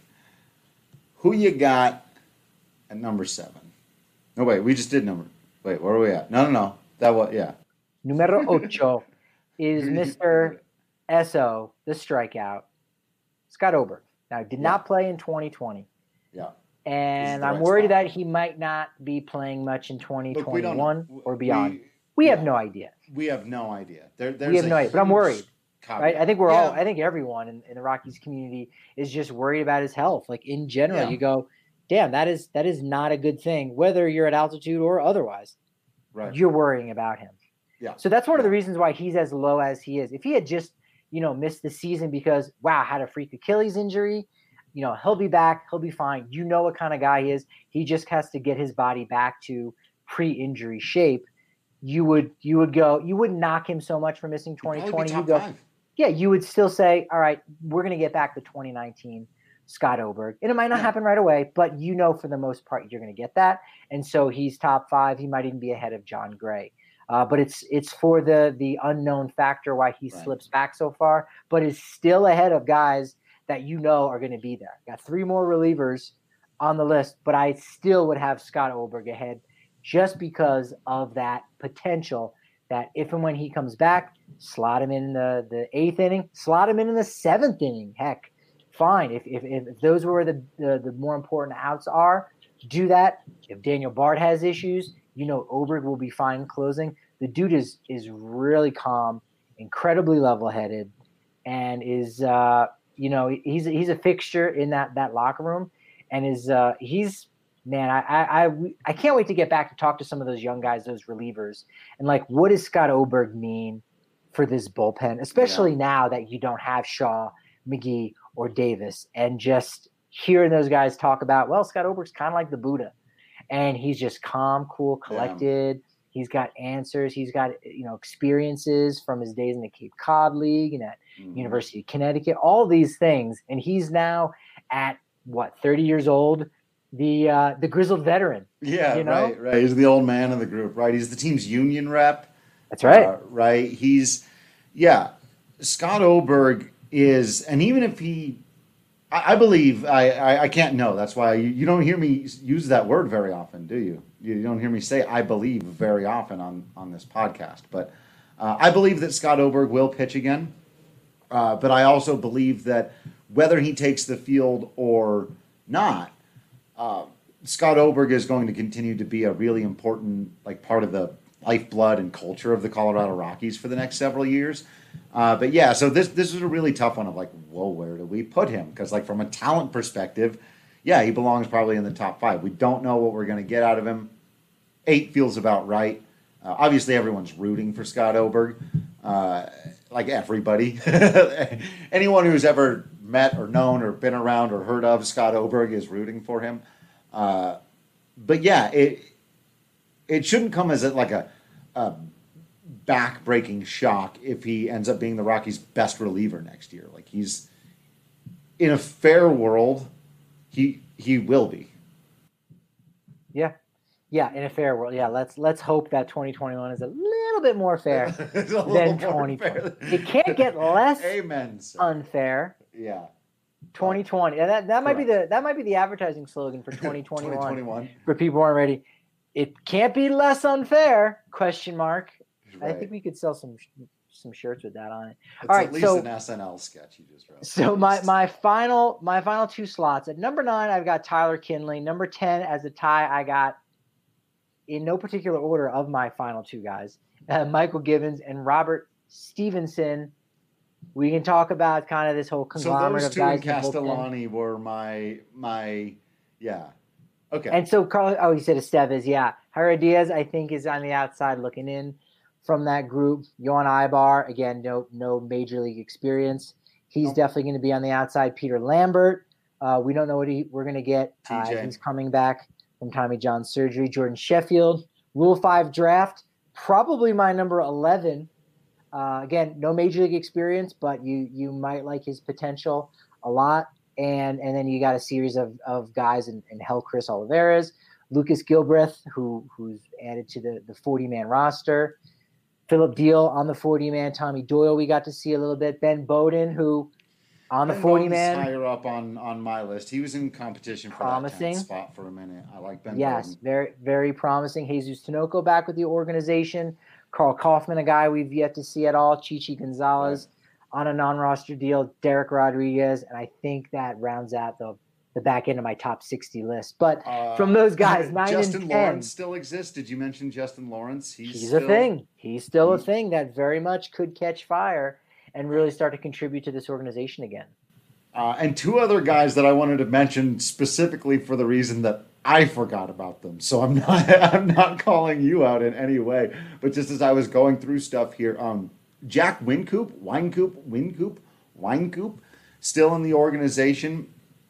Who you got at number seven? No, wait, we just did number. Wait, where are we at? No, no, no. That was, yeah. Numero ocho is Mister S O, the strikeout, Scott Oberg. Now, did Yeah. not play in twenty twenty. Yeah. And the I'm right worried spot. that he might not be playing much in twenty twenty-one Look, or beyond. We, We have yeah. no idea. we have no idea. There, there's We have a no idea, but I'm huge worried. caveat. Right? I think we're Yeah. all, I think everyone in, in the Rockies community is just worried about his health. Like in general, Yeah. you go, damn, that is, that is not a good thing, whether you're at altitude or otherwise. Right. You're worrying about him. Yeah. So that's one of the Yeah. reasons why he's as low as he is. If he had just, you know, missed the season because, wow, had a freak Achilles injury, you know, he'll be back. He'll be fine. You know what kind of guy he is. He just has to get his body back to pre-injury shape. You would, you would go, you wouldn't knock him so much for missing twenty Probably twenty. be You top go, five. yeah, you would still say, all right, we're going to get back to twenty nineteen Scott Oberg. And it might not Yeah. happen right away, but you know for the most part you're going to get that. And so he's top five. He might even be ahead of John Gray. Uh, but it's it's for the the unknown factor why he Right. slips back so far, but is still ahead of guys that you know are going to be there. Got three more relievers on the list, but I still would have Scott Oberg ahead just because of that potential that if and when he comes back, slot him in the, the eighth inning, slot him in in the seventh inning. Heck, fine. If if, if those were the, the the more important outs are, do that. If Daniel Bard has issues, you know Oberg will be fine closing. The dude is is really calm, incredibly level-headed, and is uh, you know he's he's a fixture in that that locker room, and is uh, he's man I, I I I can't wait to get back to talk to some of those young guys, those relievers, and like what does Scott Oberg mean for this bullpen, especially Yeah. now that you don't have Shaw, McGee, or Davis, and just hearing those guys talk about, well, Scott Oberg's kind of like the Buddha, and he's just calm, cool, collected. Yeah. He's got answers. He's got, you know, experiences from his days in the Cape Cod League and at mm-hmm. University of Connecticut, all these things. And he's now at what, thirty years old, the uh, the grizzled veteran. Yeah, you know? right, right. He's the old man of the group, right? He's the team's union rep. That's right. Uh, right. He's, yeah, Scott Oberg is, and even if he, I, I believe, I, I, I can't know. That's why you, you don't hear me use that word very often, do you? You don't hear me say I believe very often on, on this podcast. But uh, I believe that Scott Oberg will pitch again. Uh, but I also believe that whether he takes the field or not, uh, Scott Oberg is going to continue to be a really important like part of the lifeblood and culture of the Colorado Rockies for the next several years. Uh, but yeah, so this this is a really tough one of like, whoa, where do we put him? Because like from a talent perspective, yeah, he belongs probably in the top five. We don't know what we're going to get out of him. Eight feels about right. Uh, obviously, everyone's rooting for Scott Oberg, uh, like everybody. Anyone who's ever met or known or been around or heard of Scott Oberg is rooting for him. Uh, but yeah, it it shouldn't come as a, like a, a back-breaking shock if he ends up being the Rockies' best reliever next year. Like he's in a fair world, he he will be. Yeah. Yeah, in a fair world. Yeah, let's let's hope that twenty twenty-one is a little bit more fair than twenty twenty. It can't get less Amen, sir. unfair. Yeah. twenty twenty. And that that might be Correct. the that might be the advertising slogan for twenty twenty-one. twenty twenty-one. For people who aren't ready. It can't be less unfair, question mark. Right. I think we could sell some some shirts with that on it. It's All right, at least so an S N L sketch you just wrote. So my my final my final two slots. At number nine, I've got Tyler Kinley. Number ten as a tie, I got, in no particular order of my final two guys, uh, Michael Givens and Robert Stevenson. We can talk about kind of this whole So conglomerate those of two guys. in in the bullpen. Castellani were my my yeah. Okay. And so Carlos, oh, he said Estevez, yeah. Javier Diaz, I think, is on the outside looking in from that group. Yohan Ibar, again, no no major league experience. He's Nope. definitely going to be on the outside. Peter Lambert, uh, we don't know what he, we're going to get. Uh, T J. he's coming back from Tommy John surgery. Jordan Sheffield, Rule five draft, probably my number eleven. Uh, again, no major league experience, but you you might like his potential a lot. And and then you got a series of, of guys in, in Hell Chris Olivares, Lucas Gilbreth, who who's added to the, the forty-man roster, Philip Deal on the forty-man, Tommy Doyle we got to see a little bit, Ben Bowden, who on the Ben forty-man. Bowden's higher up on, on my list. He was in competition for Promising. that tenth spot for a minute. I like Ben Yes, Bowden. very, very promising. Jesus Tinoco back with the organization. Carl Kaufman, a guy we've yet to see at all. Chichi Gonzalez on a non-roster deal. Derek Rodriguez, and I think that rounds out the the back end of my top sixty list. But Uh, from those guys, nine Justin and ten, Lawrence still exists. Did you mention Justin Lawrence? He's, he's still, a thing. He's still a he- thing that very much could catch fire and really start to contribute to this organization again. Uh, and two other guys that I wanted to mention specifically for the reason that I forgot about them. So I'm not I'm not calling you out in any way, but just as I was going through stuff here, um, Jack Wincoop, Winecoop, Wincoop, Winecoop, still in the organization,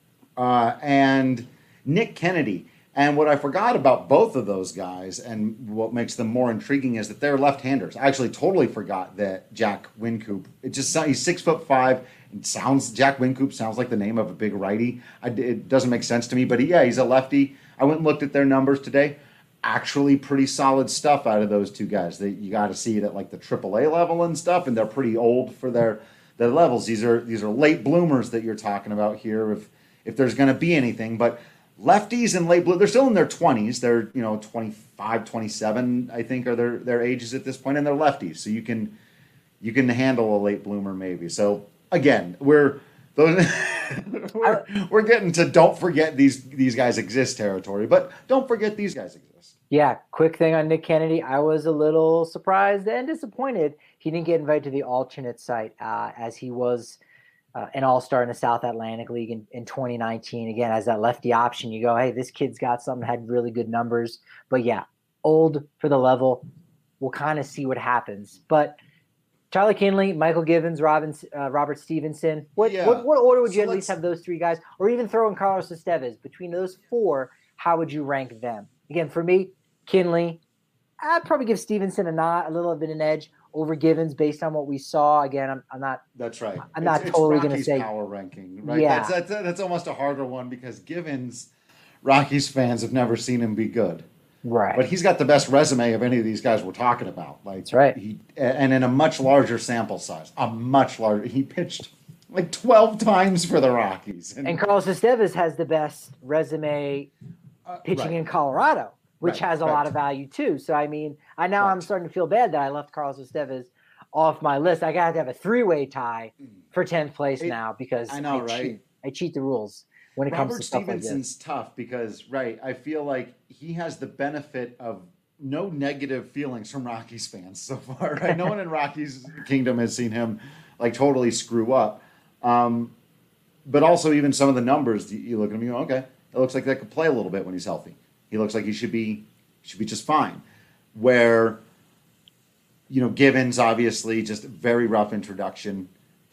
uh, and Nick Kennedy. And what I forgot about both of those guys, and what makes them more intriguing, is that they're left-handers. I actually totally forgot that Jack Wincoop. It just sounds, he's six foot five. It sounds Jack Wincoop sounds like the name of a big righty. I, it doesn't make sense to me, but he, yeah, he's a lefty. I went and looked at their numbers today. Actually, pretty solid stuff out of those two guys. They, you got to see it at like the triple A level and stuff, and they're pretty old for their their levels. These are these are late bloomers that you're talking about here. If if there's going to be anything, but lefties and late blue, they're still in their twenties. They're, you know, twenty-five, twenty-seven, I think, are their, their ages at this point, and they're lefties. So you can you can handle a late bloomer maybe. So again, we're those, we're, we're getting to don't forget these these guys exist territory, but don't forget these guys exist. Yeah, quick thing on Nick Kennedy. I was a little surprised and disappointed he didn't get invited to the alternate site uh, as he was Uh, an all-star in the South Atlantic League in, in twenty nineteen. Again, as that lefty option, you go, hey, this kid's got something, had really good numbers. But yeah, old for the level. We'll kind of see what happens. But Tyler Kinley, Michael Givens, Robin, uh, Robert Stevenson. What, Yeah. what what order would you So at least let's- have those three guys? Or even throw in Carlos Estevez. Between those four, how would you rank them? Again, for me, Kinley, I'd probably give Stevenson a nod, a little bit an edge over Givens based on what we saw. Again, I'm, I'm not That's right. I'm not it's, totally it's gonna Rockies say- power ranking, right? Yeah. That's, that's that's almost a harder one because Givens, Rockies fans have never seen him be good. right. But he's got the best resume of any of these guys we're talking about. Like, That's right. He and in a much larger sample size, a much larger. He pitched like twelve times for the Rockies. And Carlos Estevez has the best resume uh, pitching right. in Colorado, which Right, has a right. lot of value too. So I mean, I now I'm Right. starting to feel bad that I left Carlos Estevez off my list. I got to have a three-way tie for tenth place It- now because I know, I right? cheat. I cheat the rules when it Robert comes to stuff like this. Stevenson's tough because, right, I feel like he has the benefit of no negative feelings from Rockies fans so far, right? No one in Rockies Kingdom has seen him like totally screw up. Um, but also even some of the numbers, you- you look at him, you go, okay, it looks like that could play a little bit when he's healthy. He looks like he should be should be just fine. Where, you know, Givens, obviously, just a very rough introduction.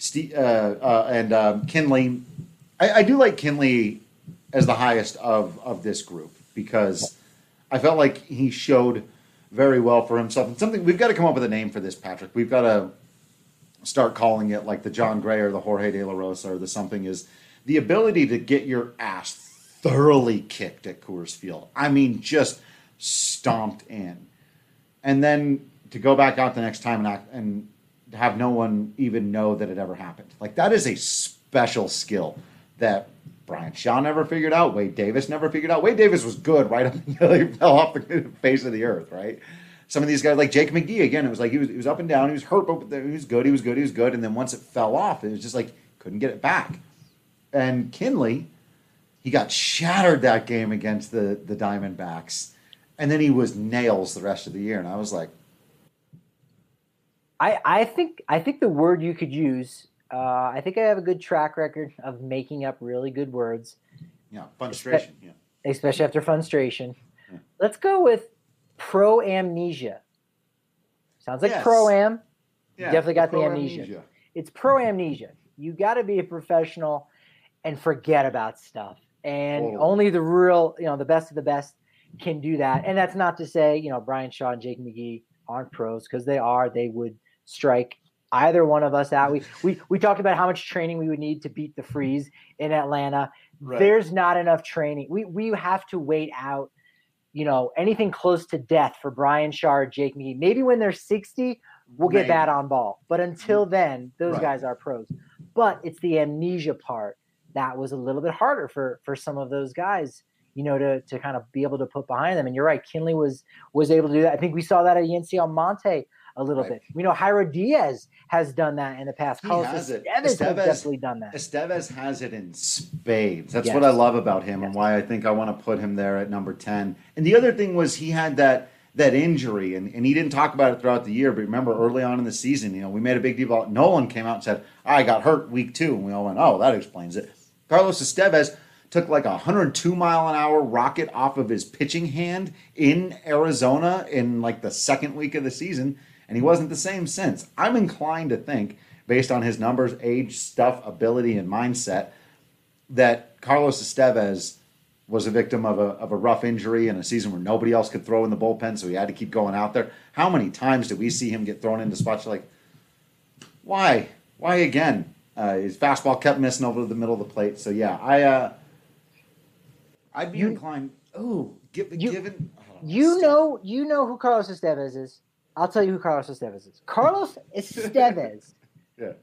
Steve, uh, uh, and um, Kinley. I, I do like Kinley as the highest of, of this group because I felt like he showed very well for himself. And something we've got to come up with a name for this, Patrick. We've got to start calling it like the John Gray or the Jorge De La Rosa or the something is the ability to get your ass thoroughly kicked at Coors Field. I mean, just stomped in. And then to go back out the next time and, act, and have no one even know that it ever happened. Like, that is a special skill that Brian Shaw never figured out. Wade Davis never figured out. Wade Davis was good right up until he fell off the face of the earth, right? Some of these guys, like Jake McGee, again, it was like he was, he was up and down. He was hurt, but he was good. He was good. He was good. And then once it fell off, it was just like couldn't get it back. And Kinley, he got shattered that game against the, the Diamondbacks. And then he was nails the rest of the year. And I was like, I, I think I think the word you could use, uh, I think I have a good track record of making up really good words. Yeah, funstration. Yeah. Especially after funstration. Yeah. Let's go with pro-amnesia. Sounds like yes. pro-am. Yeah, Definitely got the, the amnesia. amnesia. It's pro-amnesia. You got to be a professional and forget about stuff. And Totally. only the real, you know, the best of the best can do that. And that's not to say, you know, Brian Shaw and Jake McGee aren't pros, because they are. They would strike either one of us out. We we we talked about how much training we would need to beat the Freeze in Atlanta. Right. There's not enough training. We we have to wait out, you know, anything close to death for Brian Shaw or Jake McGee. Maybe when they're sixty, we'll get Maybe. that on ball. But until then, those Right. guys are pros. But it's the amnesia part that was a little bit harder for for some of those guys, you know, to to kind of be able to put behind them. And you're right, Kinley was was able to do that. I think we saw that at Yency Almonte a little Right. bit. We know Jairo Diaz has done that in the past. He Carlos has it. Estevez has Estevez- definitely done that. Estevez has it in spades. That's Yes. what I love about him Yes. and why I think I want to put him there at number ten. And the other thing was he had that that injury, and, and he didn't talk about it throughout the year, but remember early on in the season, you know, we made a big deal about Nolan came out and said, I got hurt week two. And we all went, oh, that explains it. Carlos Estevez took like a one hundred two mile an hour rocket off of his pitching hand in Arizona in like the second week of the season, and he wasn't the same since. I'm inclined to think, based on his numbers, age, stuff, ability, and mindset, that Carlos Estevez was a victim of a, of a rough injury in a season where nobody else could throw in the bullpen, so he had to keep going out there. How many times did we see him get thrown into spots like, why? Why again? Uh, his fastball kept missing over the middle of the plate. So, yeah, I, uh, I'd be You- inclined. Oh, give, you- given. I don't You know, you know who Carlos Estevez is. I'll tell you who Carlos Estevez is. Carlos Estevez Yeah.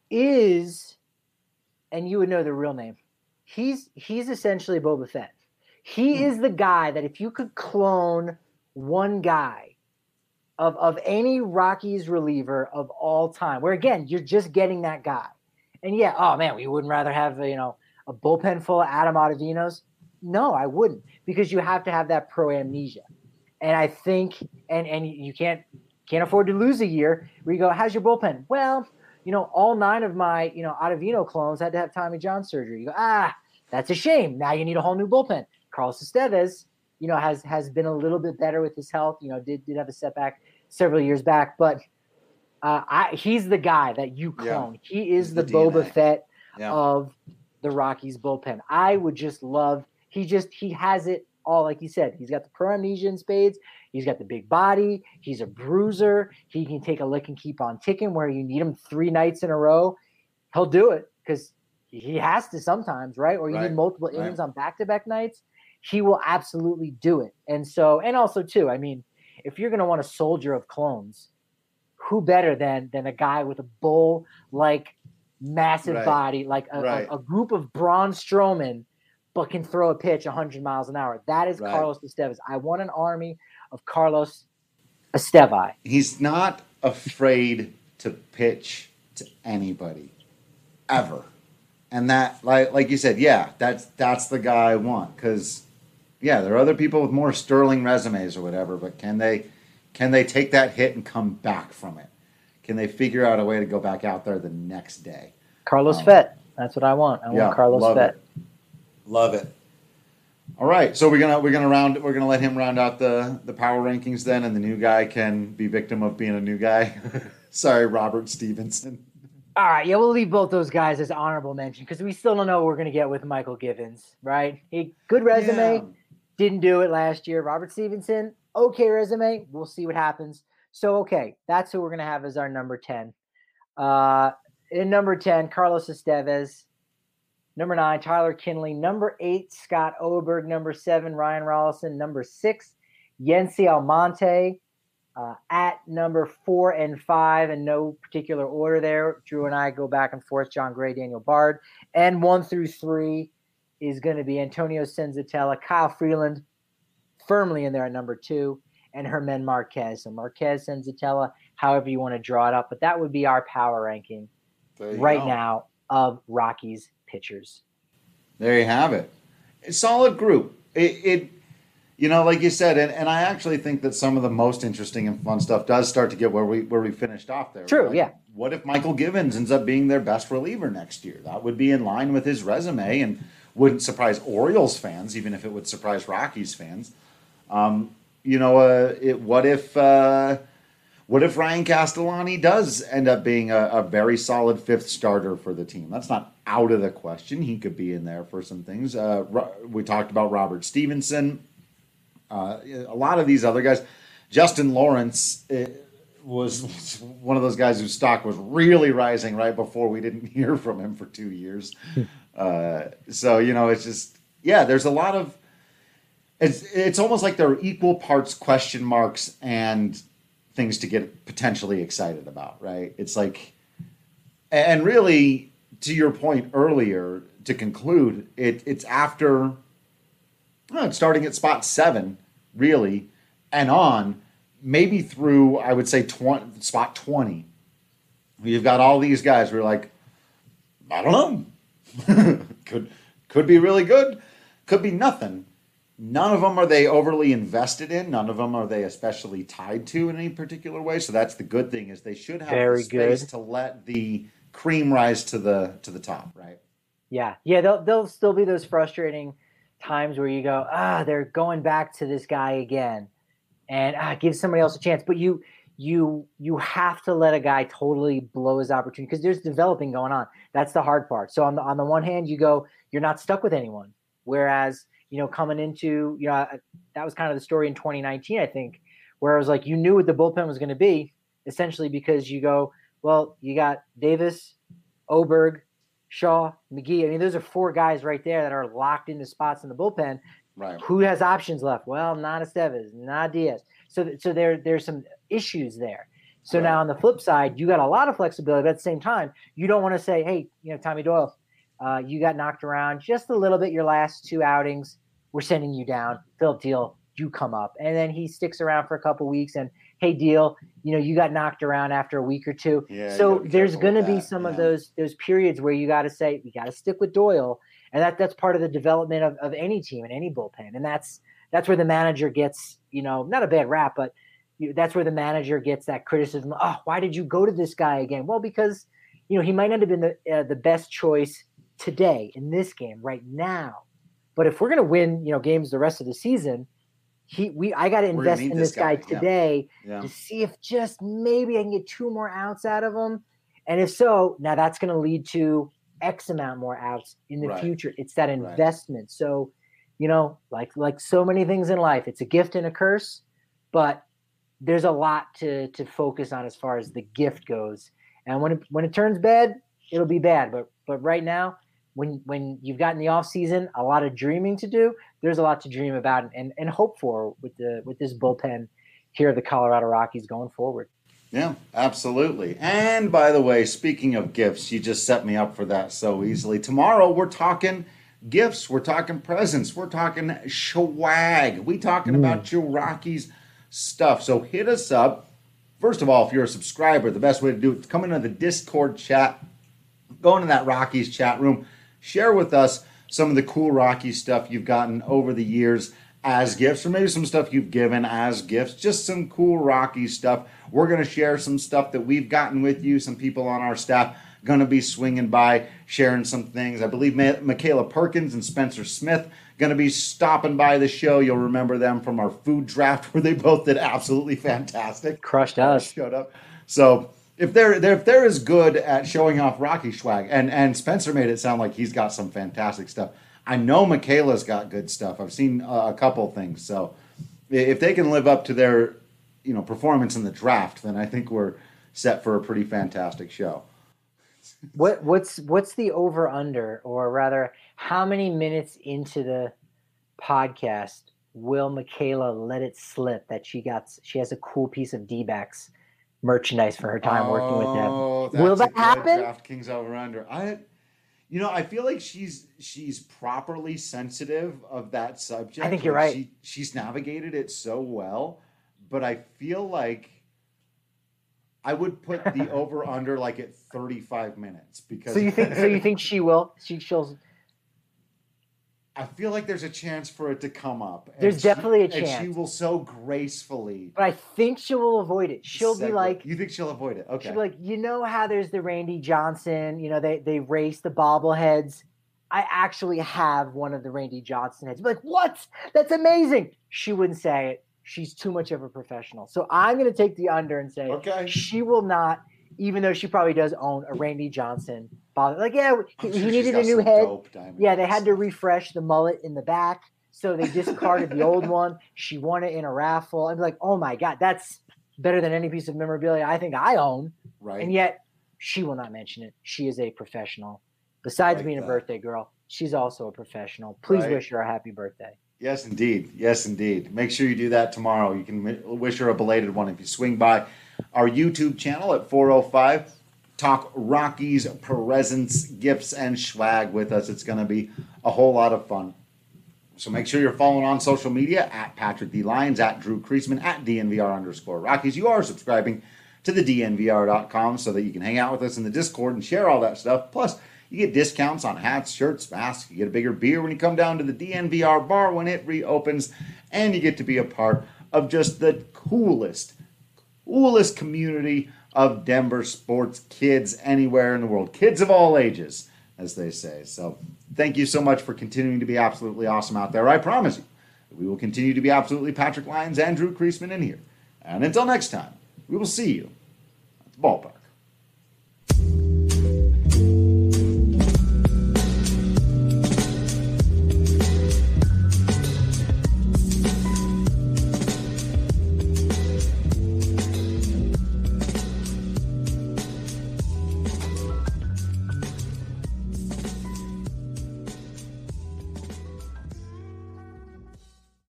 is, and you would know the real name. He's he's essentially Boba Fett. He Hmm. is the guy that if you could clone one guy of of any Rockies reliever of all time, where again you're just getting that guy, and yeah, oh man, we wouldn't rather have you know a bullpen full of Adam Ottavinos. No, I wouldn't, because you have to have that pro amnesia. And I think, and and you can't can't afford to lose a year where you go, how's your bullpen? Well, you know, all nine of my, you know, Ottavino clones had to have Tommy John surgery. You go, ah, that's a shame. Now you need a whole new bullpen. Carlos Estevez, you know, has has been a little bit better with his health. You know, did did have a setback several years back, but uh, I, he's the guy that you clone. Yeah. He is He's the, the Boba D N A. Fett Yeah. of the Rockies bullpen. I would just love. He just he has it all, like you said. He's got the pro amnesia in spades. He's got the big body. He's a bruiser. He can take a lick and keep on ticking. Where you need him three nights in a row, he'll do it because he has to sometimes, right? Or you Right. need multiple Right. innings on back-to-back nights. He will absolutely do it. And so, and also too, I mean, if you're going to want a soldier of clones, who better than than a guy with a bull like massive Right. body, like a, Right. a, a group of Braun Strowman, but can throw a pitch one hundred miles an hour. That is Right. Carlos Estevez. I want an army of Carlos Estevez. He's not afraid to pitch to anybody, ever. And that, like, like you said, yeah, that's that's the guy I want. Because, yeah, there are other people with more sterling resumes or whatever, but can they can they take that hit and come back from it? Can they figure out a way to go back out there the next day? Carlos Um, Fett. That's what I want. I yeah, want Carlos love Fett. it. Love it. All right, so we're gonna we're gonna round we're gonna let him round out the the power rankings then, and the new guy can be victim of being a new guy. Sorry, Robert Stevenson. All right, yeah, we'll leave both those guys as honorable mention because we still don't know what we're going to get with Michael Givens, right? He good resume, Yeah. didn't do it last year. Robert Stevenson, okay resume. We'll see what happens. So, okay, that's who we're going to have as our number ten. Uh, in number ten, Carlos Estevez. Number nine, Tyler Kinley. Number eight, Scott Oberg. Number seven, Ryan Rollison. Number six, Yency Almonte. Uh, at number four and five, in no particular order there, Drew and I go back and forth, John Gray, Daniel Bard. And one through three is going to be Antonio Senzatella, Kyle Freeland, firmly in there at number two, and Germán Marquez. So Marquez, Senzatella, however you want to draw it up. But that would be our power ranking right go. now of Rockies pitchers. There you have it. A solid group. It, it you know, like you said, and, and I actually think that some of the most interesting and fun stuff does start to get where we where we finished off there. True, like, yeah. What if Michael Givens ends up being their best reliever next year? That would be in line with his resume and wouldn't surprise Orioles fans, even if it would surprise Rockies fans. Um, you know, uh, it, what if uh, what if Ryan Castellani does end up being a, a very solid fifth starter for the team? That's not out of the question. He could be in there for some things. Uh, we talked about Robert Stevenson. Uh, a lot of these other guys. Justin Lawrence uh, was one of those guys whose stock was really rising right before we didn't hear from him for two years. uh, so, you know, it's just, yeah, there's a lot of, it's, it's almost like there are equal parts question marks and things to get potentially excited about, right? It's like, and really, to your point earlier, to conclude, it it's after, well, it's starting at spot seven, really, and on, maybe through, I would say, twenty, spot twenty. You've got all these guys who are like, I don't know. could could be really good. Could be nothing. None of them are they overly invested in. None of them are they especially tied to in any particular way. So that's the good thing, is they should have Very the space good. to let the cream rise to the to the top, right? Yeah, yeah, there'll, there'll still be those frustrating times where you go, ah, they're going back to this guy again, and ah, give somebody else a chance. But you, you, you have to let a guy totally blow his opportunity because there's developing going on. That's the hard part. So on the on the one hand, you go, you're not stuck with anyone. Whereas, you know, coming into, you know, that was kind of the story in twenty nineteen, I think, where it was like you knew what the bullpen was going to be, essentially because you go, well, you got Davis, Oberg, Shaw, McGee. I mean, those are four guys right there that are locked into spots in the bullpen. Right. Who has options left? Well, not Estevez, not Diaz. So, so there, there's some issues there. So Right. now on the flip side, you got a lot of flexibility, but at the same time, you don't want to say, hey, you know, Tommy Doyle, uh, you got knocked around just a little bit your last two outings. We're sending you down. Philip Deal, you come up. And then he sticks around for a couple weeks and, hey, Deal, you know, you got knocked around after a week or two. Yeah, you so gotta be there's careful going to with be that, some yeah. of those those periods where you got to say, we got to stick with Doyle. And that that's part of the development of, of any team and any bullpen. And that's that's where the manager gets, you know, not a bad rap, but you, that's where the manager gets that criticism. Oh, why did you go to this guy again? Well, because, you know, he might not have been the, uh, the best choice today in this game right now. But if we're going to win, you know, games the rest of the season, he we I got to We're gonna invest need in this this guy, guy, yeah. today Yeah. to see if just maybe I can get two more outs out of him. And if so, now that's going to lead to X amount more outs in the Right. future. It's that Right. investment. So, you know, like like so many things in life, it's a gift and a curse, but there's a lot to to focus on as far as the gift goes. And when it, when it turns bad, it'll be bad. But but right now, when when you've got in the off season a lot of dreaming to do, there's a lot to dream about and, and hope for with the with this bullpen here at the Colorado Rockies going forward. Yeah, absolutely. And by the way, speaking of gifts, you just set me up for that so easily. Tomorrow we're talking gifts, we're talking presents, we're talking swag, we talking about your Rockies stuff. So hit us up. First of all, if you're a subscriber, the best way to do it is come into the Discord chat, go into that Rockies chat room, share with us some of the cool Rockies stuff you've gotten over the years as gifts, or maybe some stuff you've given as gifts, just some cool Rockies stuff. We're going to share some stuff that we've gotten with you. Some people on our staff going to be swinging by, sharing some things. I believe Ma- Michaela Perkins and Spencer Smith going to be stopping by the show. You'll remember them from our food draft where they both did absolutely fantastic. Crushed us. Showed up. So if they're, they're if they're as good at showing off Rocky swag, and and Spencer made it sound like he's got some fantastic stuff. I know Michaela's got good stuff. I've seen uh, a couple things. So if they can live up to their, you know, performance in the draft, then I think we're set for a pretty fantastic show. What what's what's the over under, or rather, how many minutes into the podcast will Michaela let it slip that she got she has a cool piece of D-backs merchandise for her time oh, working with that's them? Will that happen? DraftKings over under. I, you know, I feel like she's she's properly sensitive of that subject. I think you're like right. She, she's navigated it so well, but I feel like I would put the over under like at thirty-five minutes because. So you think? So you think she will? She she'll. I feel like there's a chance for it to come up. There's she, definitely a and chance. she will so gracefully. But I think she will avoid it. She'll be segue. like, you think she'll avoid it? Okay. she'll be like, you know how there's the Randy Johnson. You know they they race the bobbleheads. I actually have one of the Randy Johnson heads. Be like, what? That's amazing. She wouldn't say it. She's too much of a professional. So I'm going to take the under and say Okay. she will not, even though she probably does own a Randy Johnson bobblehead. Like, yeah, he, I'm he sure she's needed got a new some head. dope diamond Yeah, they had heads. to refresh the mullet in the back. So they discarded the old one. She won it in a raffle. I'm like, oh my God, that's better than any piece of memorabilia I think I own. Right. And yet she will not mention it. She is a professional. Besides like being that. a birthday girl, she's also a professional. Please Right. wish her a happy birthday. Yes, indeed. Yes, indeed. Make sure you do that tomorrow. You can mi- wish her a belated one if you swing by our YouTube channel at four oh five. Talk Rockies, presents, gifts, and swag with us. It's going to be a whole lot of fun. So make sure you're following on social media at Patrick D. Lyons, at Drew Kreisman, at D N V R underscore Rockies. You are subscribing to the D N V R dot com so that you can hang out with us in the Discord and share all that stuff. Plus, you get discounts on hats, shirts, masks. You get a bigger beer when you come down to the D N V R bar when it reopens. And you get to be a part of just the coolest, coolest community of Denver sports kids anywhere in the world. Kids of all ages, as they say. So thank you so much for continuing to be absolutely awesome out there. I promise you that we will continue to be absolutely Patrick Lyons and Drew Kreisman in here. And until next time, we will see you at the ballpark.